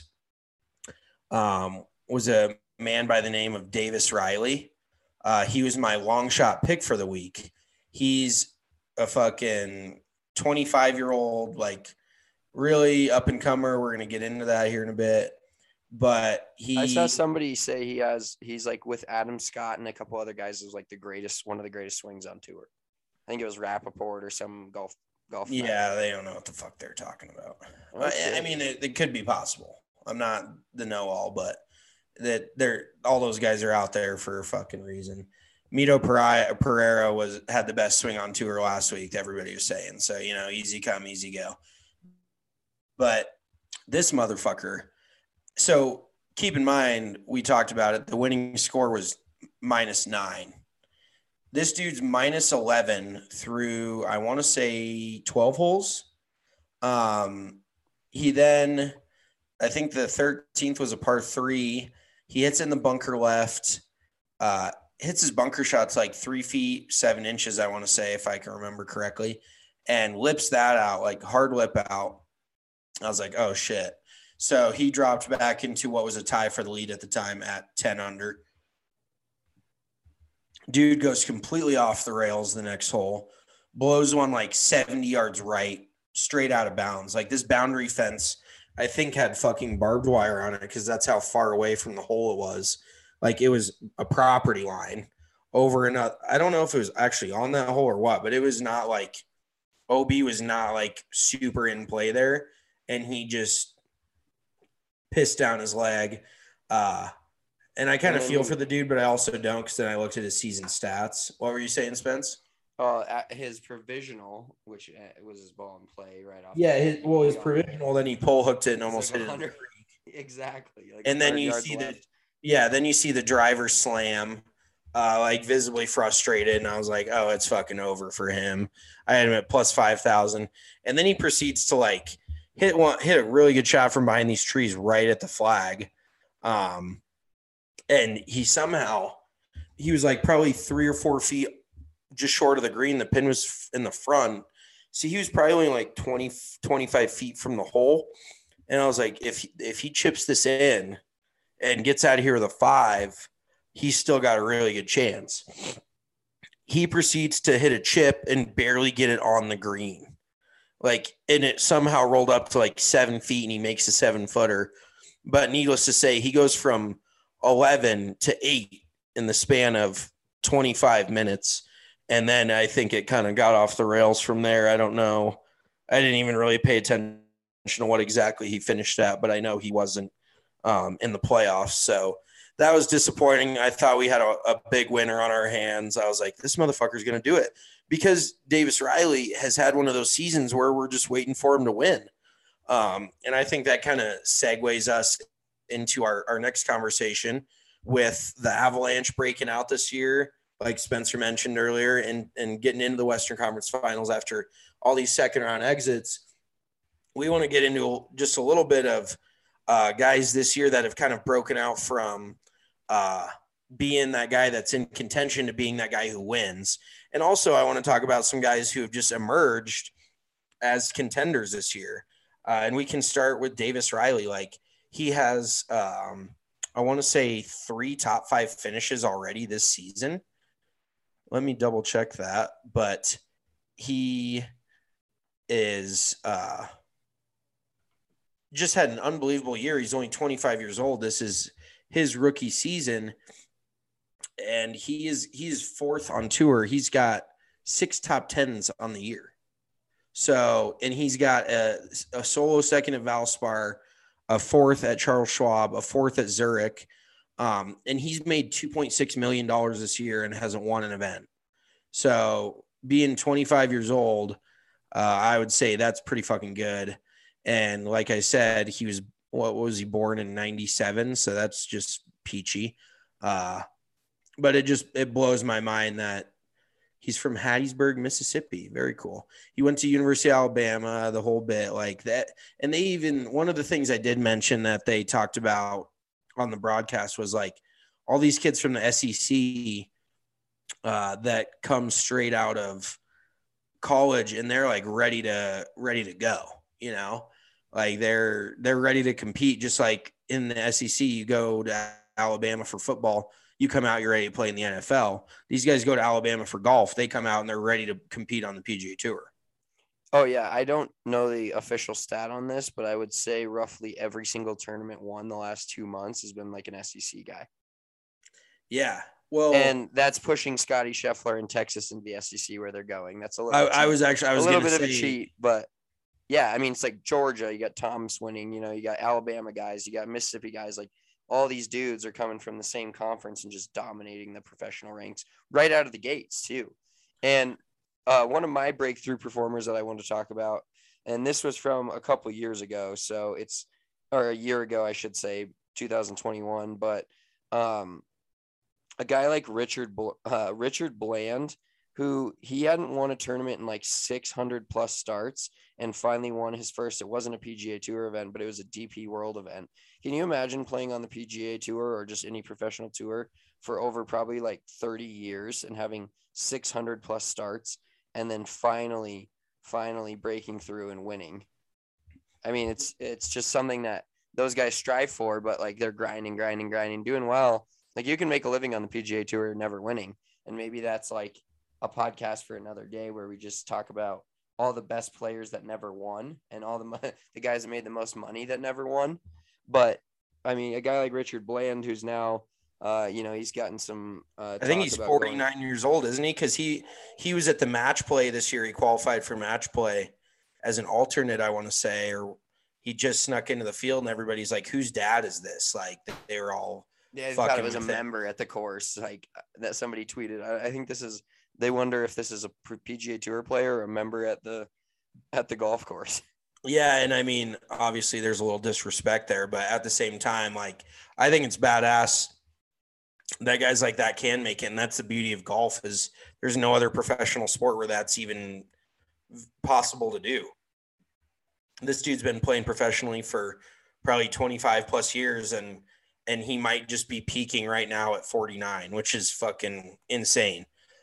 was a man by the name of Davis Riley. He was my long shot pick for the week. He's a fucking 25-year-old, like, really up and comer. We're going to get into that here in a bit. But I saw somebody say he's like with Adam Scott and a couple other guys, is like one of the greatest swings on tour. I think it was Rappaport or some golf. Yeah, they don't know what the fuck they're talking about. Okay. I mean, it could be possible. I'm not the know-all, but that all those guys are out there for a fucking reason. Mito Pereira had the best swing on tour last week, everybody was saying. So, easy come, easy go. But this motherfucker, so keep in mind, we talked about it, the winning score was -9. This dude's -11 through, I want to say, 12 holes. He then, I think the 13th was a par 3. He hits in the bunker left, hits his bunker shots like 3 feet, 7 inches, I want to say, if I can remember correctly, and lips that out, like hard lip out. I was like, oh, shit. So he dropped back into what was a tie for the lead at the time at 10 under. Dude goes completely off the rails the next hole, blows one like 70 yards right, straight out of bounds. Like, this boundary fence, I think, had fucking barbed wire on it because that's how far away from the hole it was. Like, it was a property line over another. I don't know if it was actually on that hole or what, but it was not like OB was not like super in play there. And he just pissed down his leg. And I kind of feel for the dude, but I also don't, because then I looked at his season stats. What were you saying, Spence? At his provisional, which was his ball in play right off. Yeah, his provisional, then he pull hooked it and almost hit it. Exactly. Like, and then you see the driver slam, like visibly frustrated, and I was like, oh, it's fucking over for him. I had him at plus 5,000, and then he proceeds to like hit a really good shot from behind these trees right at the flag. And he was like probably 3 or 4 feet just short of the green. The pin was in the front. So he was probably only like 20, 25 feet from the hole. And I was like, if he chips this in and gets out of here with a 5, he's still got a really good chance. He proceeds to hit a chip and barely get it on the green. Like, and it somehow rolled up to like 7 feet, and he makes a 7-footer. But needless to say, he goes from 11 to 8 in the span of 25 minutes. And then I think it kind of got off the rails from there. I don't know I didn't even really pay attention to what exactly he finished at, but I know he wasn't in the playoffs. So that was disappointing. I thought we had a big winner on our hands. I was like, this motherfucker's going to do it, because Davis Riley has had one of those seasons where we're just waiting for him to win. And I think that kind of segues us into our next conversation with the Avalanche breaking out this year, like Spencer mentioned earlier, and getting into the Western Conference Finals after all these second-round exits. We want to get into just a little bit of guys this year that have kind of broken out from being that guy that's in contention to being that guy who wins. And also I want to talk about some guys who have just emerged as contenders this year. And we can start with Davis Riley. Like, he has, I want to say 3 top 5 finishes already this season. Let me double check that. But he is just had an unbelievable year. He's only 25 years old. This is his rookie season, and he's 4th on tour. He's got 6 top 10s on the year. So, and he's got a solo second at Valspar, a 4th at Charles Schwab, a 4th at Zurich. And he's made $2.6 million this year and hasn't won an event. So being 25 years old, I would say that's pretty fucking good. And like I said, he was, what was he, born in 97? So that's just peachy. But it blows my mind that he's from Hattiesburg, Mississippi. Very cool. He went to University of Alabama, the whole bit like that. And they even, one of the things I did mention that they talked about on the broadcast was like all these kids from the SEC that come straight out of college, and they're like ready to go, you know, like they're ready to compete. Just like in the SEC, you go to Alabama for football, you come out, you're ready to play in the NFL. These guys go to Alabama for golf. They come out and they're ready to compete on the PGA Tour. Oh, yeah. I don't know the official stat on this, but I would say roughly every single tournament won the last 2 months has been like an SEC guy. Yeah. Well, and that's pushing Scotty Scheffler in Texas into the SEC where they're going. That's a little I was a little bit of a cheat, but yeah, I mean, it's like Georgia, you got Thomas winning, you know, you got Alabama guys, you got Mississippi guys, like all these dudes are coming from the same conference and just dominating the professional ranks right out of the gates too. And one of my breakthrough performers that I want to talk about, and this was from a couple years ago, so or a year ago, I should say, 2021, but a guy like Richard Bland, who he hadn't won a tournament in like 600 plus starts and finally won his first. It wasn't a PGA Tour event, but it was a DP World event. Can you imagine playing on the PGA Tour or just any professional tour for over probably like 30 years and having 600 plus starts and then finally breaking through and winning? I mean, it's just something that those guys strive for, but like they're grinding, doing well. Like you can make a living on the PGA Tour never winning. And maybe that's like a podcast for another day where we just talk about all the best players that never won and all the guys that made the most money that never won. But I mean, a guy like Richard Bland, who's now, he's gotten some. I think he's 49 years old, isn't he? Because he was at the match play this year. He qualified for match play as an alternate, I want to say, or he just snuck into the field and everybody's like, whose dad is this? Like they were all. Yeah, I thought it was a member at the course, like that somebody tweeted. I think they wonder if this is a PGA Tour player or a member at the golf course. Yeah, and I mean, obviously there's a little disrespect there, but at the same time, like I think it's badass that guys like that can make it, and that's the beauty of golf is there's no other professional sport where that's even possible to do. This dude's been playing professionally for probably 25 plus years, and he might just be peaking right now at 49, which is fucking insane.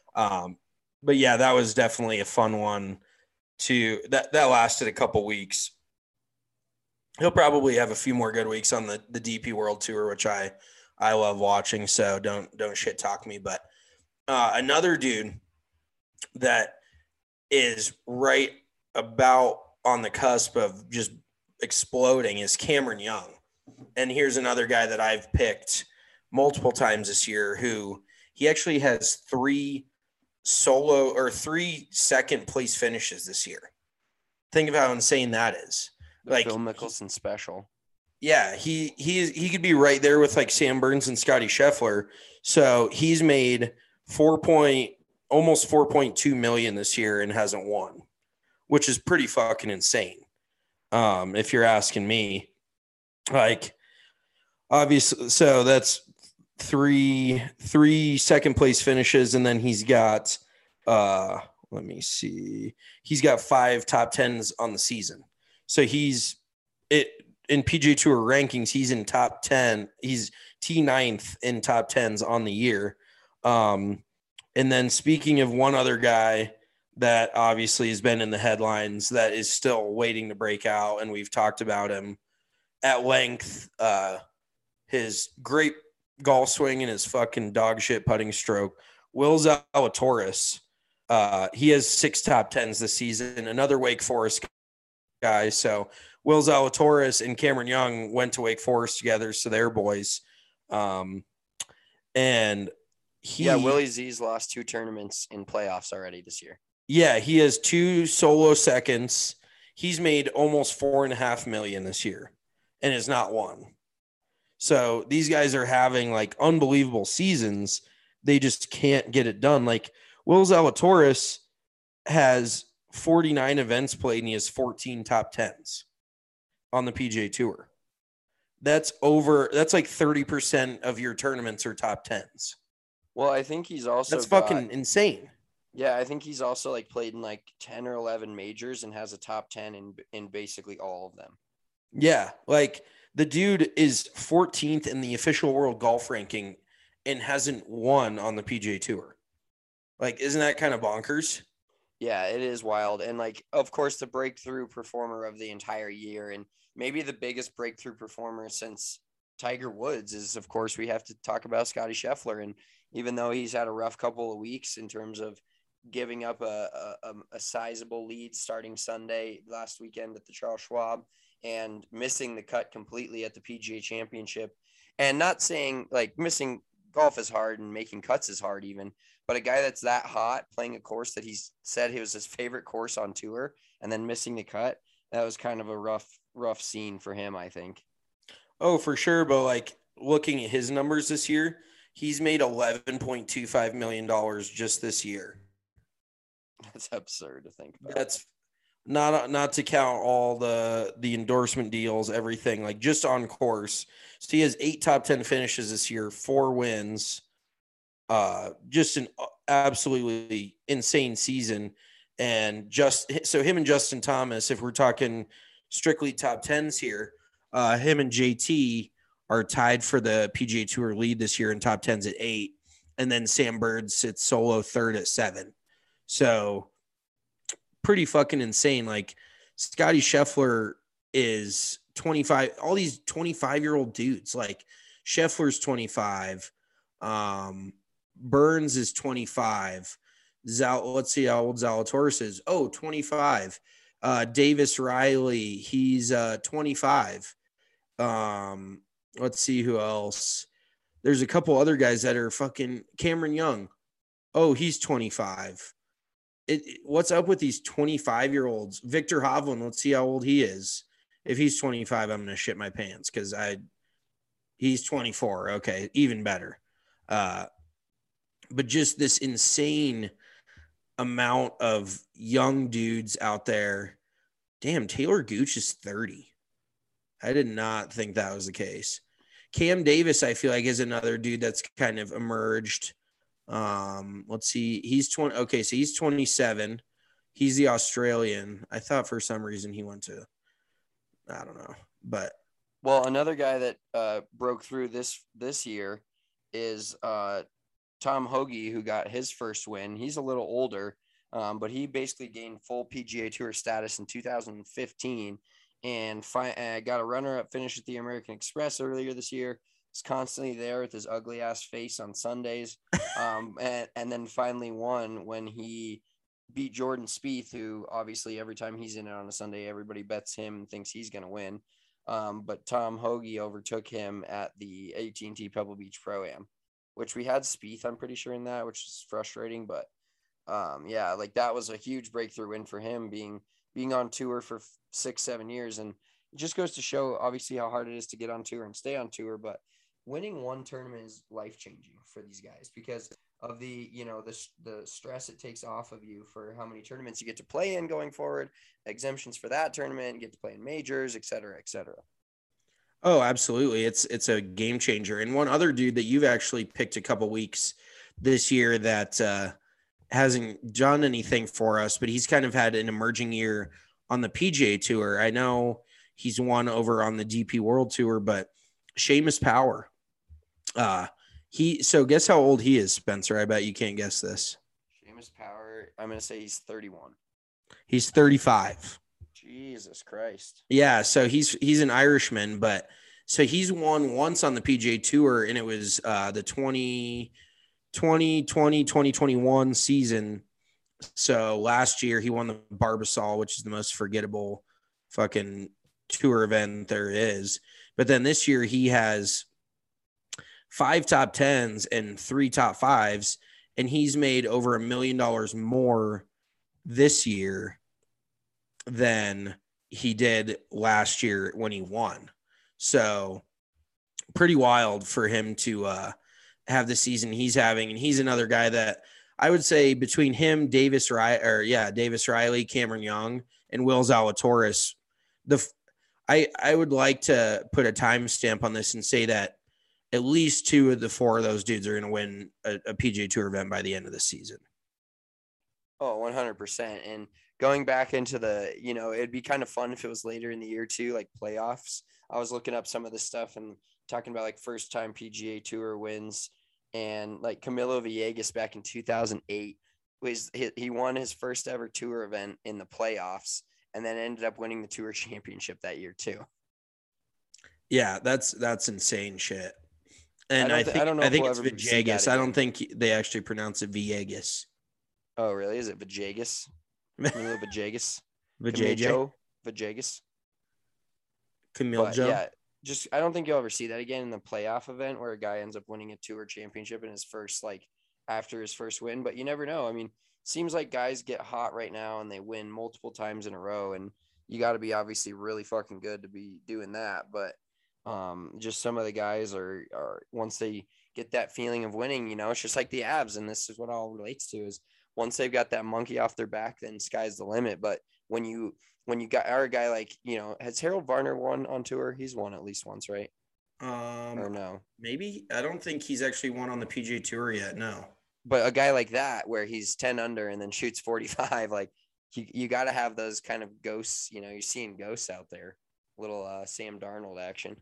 But yeah, that was definitely a fun one that lasted a couple weeks. He'll probably have a few more good weeks on the DP World Tour, which I love watching. So don't shit talk me. But another dude that is right about on the cusp of just exploding is Cameron Young. And here's another guy that I've picked multiple times this year who he actually has 3 second place finishes this year. Think of how insane that is. The Like Phil Mickelson special. Yeah, he could be right there with like Sam Burns and Scotty Scheffler. So he's made almost 4.2 million this year and hasn't won, which is pretty fucking insane. If you're asking me, like obviously, so that's three second place finishes, and then he's got let me see, he's got 5 top 10s on the season. So he's in PGA Tour rankings, he's in top 10. He's T9th in top 10s on the year. And then speaking of one other guy that obviously has been in the headlines that is still waiting to break out, and we've talked about him at length, his great golf swing and his fucking dog shit putting stroke, Will Zalatoris. He has 6 top 10s this season, another Wake Forest guy. So Will Zalatoris and Cameron Young went to Wake Forest together, so they're boys. And Willie Z's lost 2 tournaments in playoffs already this year. Yeah, he has 2 solo seconds. He's made almost $4.5 million this year and has not won. So these guys are having like unbelievable seasons. They just can't get it done. Like Will Zalatoris has 49 events played and he has 14 top 10s on the PGA Tour. That's like 30% of your tournaments are top 10s. Well, I think he's also fucking insane. Yeah, I think he's also like played in like 10 or 11 majors and has a top 10 in basically all of them. Yeah, like the dude is 14th in the official world golf ranking and hasn't won on the PGA Tour. Like, isn't that kind of bonkers? Yeah, it is wild. And like, of course, the breakthrough performer of the entire year, and maybe the biggest breakthrough performer since Tiger Woods, is, of course, we have to talk about Scotty Scheffler. And even though he's had a rough couple of weeks in terms of giving up a sizable lead starting Sunday last weekend at the Charles Schwab and missing the cut completely at the PGA Championship, and not saying like missing golf is hard and making cuts is hard even, but a guy that's that hot playing a course that he's said it was his favorite course on tour and then missing the cut, that was kind of a rough scene for him, I think. Oh, for sure. But like looking at his numbers this year, he's made $11.25 million just this year. That's absurd to think about. That's not to count all the endorsement deals, everything, like just on course. So he has 8 top 10 finishes this year, 4 wins, just an absolutely insane season. And so him and Justin Thomas, if we're talking strictly top 10s here, him and JT are tied for the PGA Tour lead this year in top 10s at 8. And then Sam Bird sits solo third at 7. So pretty fucking insane. Like Scotty Scheffler is 25, all these 25-year-old dudes, like Scheffler's 25. Burns is 25. Let's see how old Zalatoris is. 25. Davis Riley, he's 25. Let's see who else. There's a couple other guys that are fucking Cameron Young. He's 25. What's up with these 25-year-olds? Victor Hovland, let's see how old he is. If he's 25, I'm going to shit my pants because he's 24. Okay, even better. But just this insane amount of young dudes out there. Damn, Taylor Gooch is 30. I did not think that was the case. Cam Davis, I feel like, is another dude that's kind of emerged. Let's see. He's 20. Okay, so he's 27. He's the Australian. I thought for some reason he went to, I don't know, but. Well, another guy that broke through this year is Tom Hoge, who got his first win. He's a little older, but he basically gained full PGA Tour status in 2015 and got a runner-up finish at the American Express earlier this year. He's constantly there with his ugly ass face on Sundays. And then finally won when he beat Jordan Spieth, who obviously every time he's in it on a Sunday, everybody bets him and thinks he's going to win. But Tom Hoge overtook him at the AT&T Pebble Beach Pro-Am, which we had Spieth, I'm pretty sure, in that, which is frustrating. But yeah, like that was a huge breakthrough win for him, being being on tour for 6-7 years. And it just goes to show obviously how hard it is to get on tour and stay on tour, but winning one tournament is life-changing for these guys because of the, you know, the stress it takes off of you for how many tournaments you get to play in going forward, exemptions for that tournament, get to play in majors, et cetera, et cetera. Oh, absolutely. It's a game changer. And one other dude that you've actually picked a couple weeks this year that hasn't done anything for us, but he's kind of had an emerging year on the PGA Tour. I know he's won over on the DP World Tour, but Seamus Power. So guess how old he is, Spencer? I bet you can't guess this. Seamus Power, I'm going to say he's 31. He's 35. Jesus Christ. Yeah, so he's an Irishman, but so he's won once on the PGA Tour, and it was the 2021 season. So last year he won the Barbasol, which is the most forgettable fucking tour event there is. But then this year he has 5 top 10s and 3 top 5s, and he's made over $1 million more this year than he did last year when he won. So pretty wild for him to have the season he's having. And he's another guy that I would say between him, Davis Riley, Cameron Young, and Will Zalatoris, I would like to put a timestamp on this and say that at least 2 of the 4 of those dudes are going to win a PGA Tour event by the end of the season. Oh, 100%. And going back into it'd be kind of fun if it was later in the year too, like playoffs. I was looking up some of this stuff and talking about like first time PGA Tour wins, and like Camilo Villegas back in 2008 he won his first ever tour event in the playoffs and then ended up winning the tour championship that year too. Yeah, that's insane shit. And I think it's Villegas. I don't think they actually pronounce it Villegas. Oh, really? Is it Villegas? Camilo Villegas? Villegas? Camille. Yeah, just I don't think you'll ever see that again in the playoff event where a guy ends up winning a tour championship in his first, like after his first win, but you never know. I mean, seems like guys get hot right now and they win multiple times in a row, and you got to be obviously really fucking good to be doing that. But just some of the guys are once they get that feeling of winning, you know, it's just like the Avs, and this is what all relates to is once they've got that monkey off their back, then sky's the limit. But when you got a guy like, you know, has Harold Varner won on tour? He's won at least once, right? Or no? Maybe. I don't think he's actually won on the PGA Tour yet. No. But a guy like that, where he's 10 under and then shoots 45, like you got to have those kind of ghosts. You know, you're seeing ghosts out there. Little Sam Darnold action.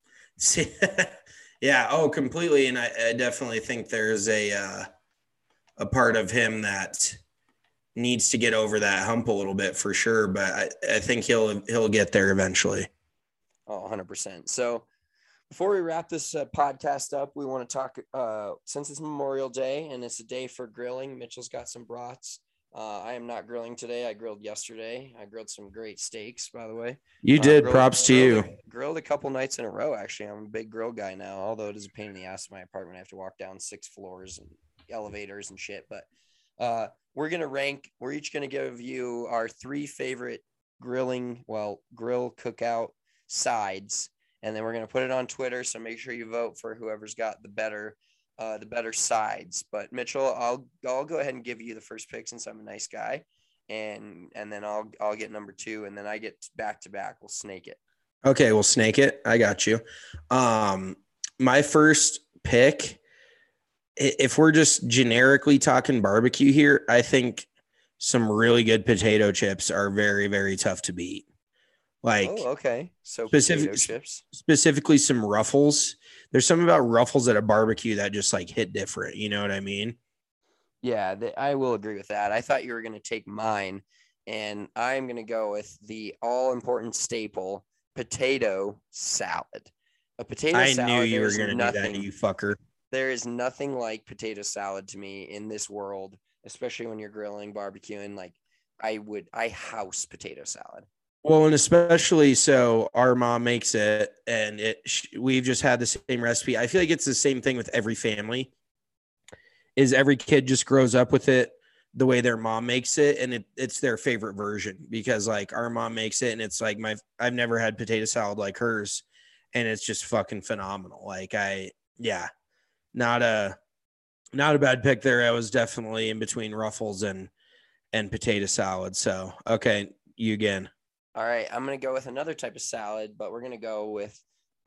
Yeah. Oh, completely. And I definitely think there's a part of him that needs to get over that hump a little bit for sure. But I think he'll get there eventually. Oh, 100%. So before we wrap this podcast up, we want to talk, since it's Memorial Day and it's a day for grilling, Mitchell's got some brats. I am not grilling today. I grilled yesterday. I grilled some great steaks, by the way. You did. Props to you. Grilled a couple nights in a row, actually. I'm a big grill guy now, although it is a pain in the ass in my apartment. I have to walk down 6 floors and elevators and shit. But we're going to rank. We're each going to give you our 3 favorite grill cookout sides. And then we're going to put it on Twitter. So make sure you vote for whoever's got the better sides. But Mitchell, I'll go ahead and give you the first pick since I'm a nice guy, and then I'll get number 2, and then I get back to back. We'll snake it. Okay, we'll snake it. I got you. My first pick, if we're just generically talking barbecue here, I think some really good potato chips are very, very tough to beat. Like, oh, okay. So potato chips, specifically some Ruffles. There's something about Ruffles at a barbecue that just like hit different. You know what I mean? Yeah, I will agree with that. I thought you were going to take mine, and I'm going to go with the all important staple, potato salad. A potato salad. I knew you were going to do that, you fucker. There is nothing like potato salad to me in this world, especially when you're grilling, barbecuing. Like I house potato salad. Well, and especially so our mom makes it, and we've just had the same recipe. I feel like it's the same thing with every family, is every kid just grows up with it. the way their mom makes it, and it's their favorite version, because like our mom makes it and it's like I've never had potato salad like hers, and it's just fucking phenomenal. Like not a bad pick there. I was definitely in between Ruffles and potato salad. So okay, you again. All right, I'm gonna go with another type of salad, but we're gonna go with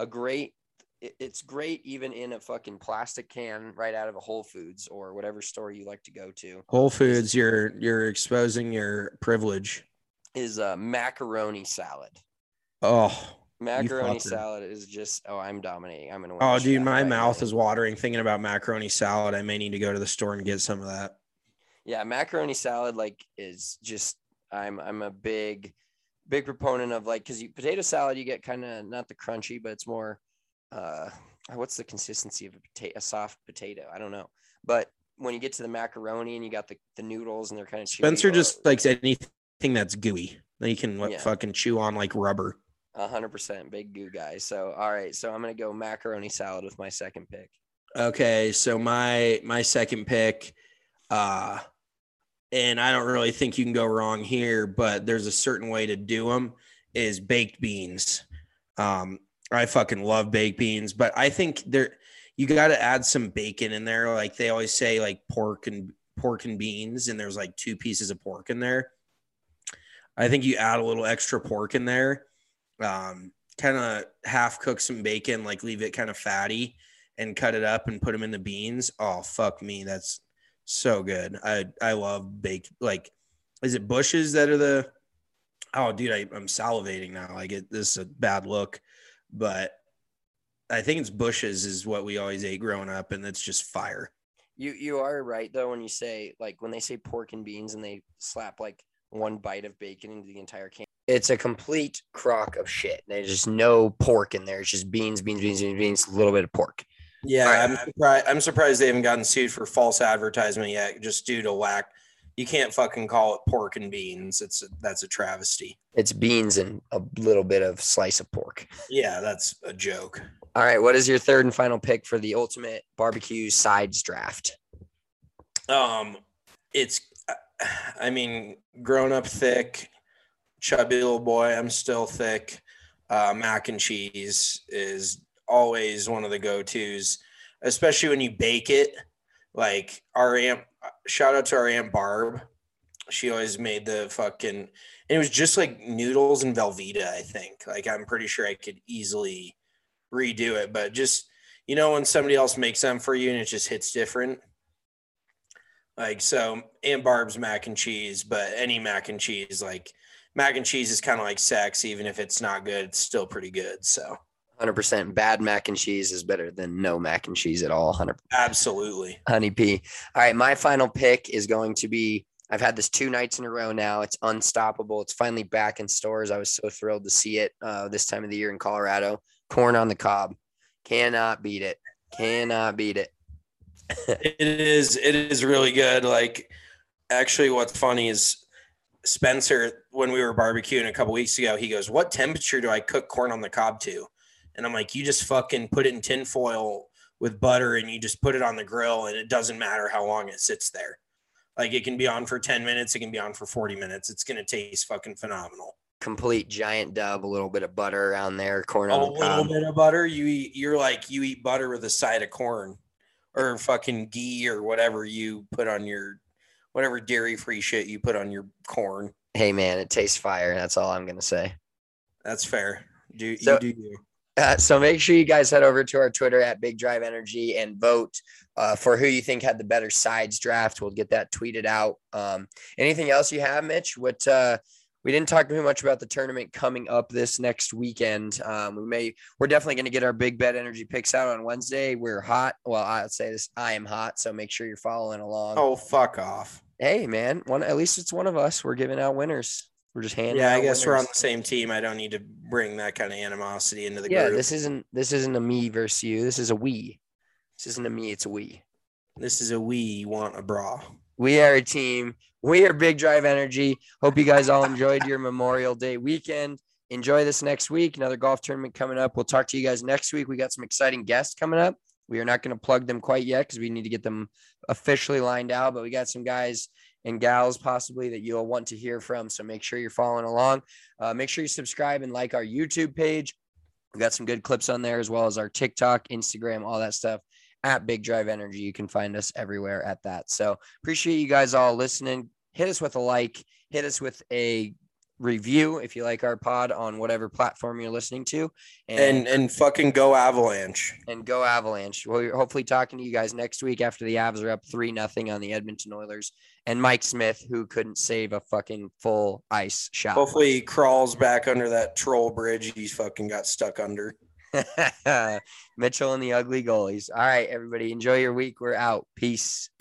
it's great even in a fucking plastic can right out of a Whole Foods or whatever store you like to go to. Whole Foods, you're exposing your privilege. Is macaroni salad. Oh, macaroni salad is just, I'm dominating. I'm gonna win. Oh, dude, my mouth is watering thinking about macaroni salad. I may need to go to the store and get some of that. Yeah, macaroni salad is just, I'm a big proponent of because potato salad, you get kind of not the crunchy, but it's more what's the consistency of a soft potato? I don't know. But when you get to the macaroni and you got the noodles and they're kind of chewy. Spencer just likes anything that's gooey that you can fucking chew on like rubber. 100% big goo guy. So, all right. So I'm going to go macaroni salad with my second pick. Okay. So my second pick, and I don't really think you can go wrong here, but there's a certain way to do them, is baked beans. I fucking love baked beans, but I think you got to add some bacon in there. Like they always say, like pork and beans, and there's like 2 pieces of pork in there. I think you add a little extra pork in there, kind of half cook some bacon, like leave it kind of fatty, and cut it up and put them in the beans. Oh, fuck me. That's so good. I love baked, like, is it Bush's that are oh dude, I'm salivating now. This is a bad look, but I think it's Bush's is what we always ate growing up, and it's just fire. You are right though when you say, like, when they say pork and beans and they slap like one bite of bacon into the entire can. It's a complete crock of shit. There's just no pork in there. It's just beans, a little bit of pork. Yeah, right. I'm surprised they haven't gotten sued for false advertisement yet, just due to lack. You can't fucking call it pork and beans. That's a travesty. It's beans and a little bit of slice of pork. Yeah, that's a joke. All right, what is your third and final pick for the ultimate barbecue sides draft? It's, growing up thick, chubby little boy, I'm still thick. Mac and cheese is always one of the go-tos, especially when you bake it. Like shout out to our Aunt Barb. She always made the fucking, and it was just like noodles and Velveeta, I think. Like, I'm pretty sure I could easily redo it, but just, when somebody else makes them for you and it just hits different. Like, so Aunt Barb's mac and cheese, but any mac and cheese, like mac and cheese is kind of like sex. Even if it's not good, it's still pretty good. So 100% bad mac and cheese is better than no mac and cheese at all. 100%. Absolutely. Honey P. All right. My final pick is going to be, I've had this 2 nights in a row now. It's Unstoppable. It's finally back in stores. I was so thrilled to see it this time of the year in Colorado. Corn on the cob. Cannot beat it. It is really good. Like, actually, what's funny is Spencer, when we were barbecuing a couple weeks ago, he goes, "What temperature do I cook corn on the cob to?" And I'm like, "You just fucking put it in tin foil with butter and you just put it on the grill, and it doesn't matter how long it sits there. Like, it can be on for 10 minutes. It can be on for 40 minutes. It's going to taste fucking phenomenal." Complete giant dub, a little bit of butter around there, corn on the cob. A little bit of butter. You eat butter with a side of corn or fucking ghee or whatever you put on whatever dairy-free shit you put on your corn. Hey, man, it tastes fire. That's all I'm going to say. That's fair. You do you. So make sure you guys head over to our Twitter at Big Drive Energy and vote for who you think had the better sides draft. We'll get that tweeted out. Anything else you have, Mitch? We didn't talk too much about the tournament coming up this next weekend. We're definitely going to get our Big Bet Energy picks out on Wednesday. We're hot. Well, I'd say this, I am hot. So make sure you're following along. Oh, fuck off. Hey, man, at least it's one of us. We're giving out winners. We're just handing out I guess winners. We're on the same team. I don't need to bring that kind of animosity into the group. Yeah, this isn't a me versus you. This is a we. This isn't a me, it's a we. This is a we want a bra. We are a team. We are Big Drive Energy. Hope you guys all enjoyed your Memorial Day weekend. Enjoy this next week. Another golf tournament coming up. We'll talk to you guys next week. We got some exciting guests coming up. We are not going to plug them quite yet because we need to get them officially lined out, but we got some guys and gals possibly that you'll want to hear from. So make sure you're following along. Make sure you subscribe and like our YouTube page. We've got some good clips on there, as well as our TikTok, Instagram, all that stuff at Big Drive Energy. You can find us everywhere at that. So appreciate you guys all listening. Hit us with a like, hit us with a review if you like our pod on whatever platform you're listening to, and fucking go Avalanche. And go Avalanche. We're hopefully talking to you guys next week after the Avs are up 3-0 on the Edmonton Oilers, and Mike Smith, who couldn't save a fucking full ice shot. Hopefully he crawls back under that troll bridge he's fucking got stuck under. Mitchell and the ugly goalies. All right, everybody, enjoy your week. We're out. Peace.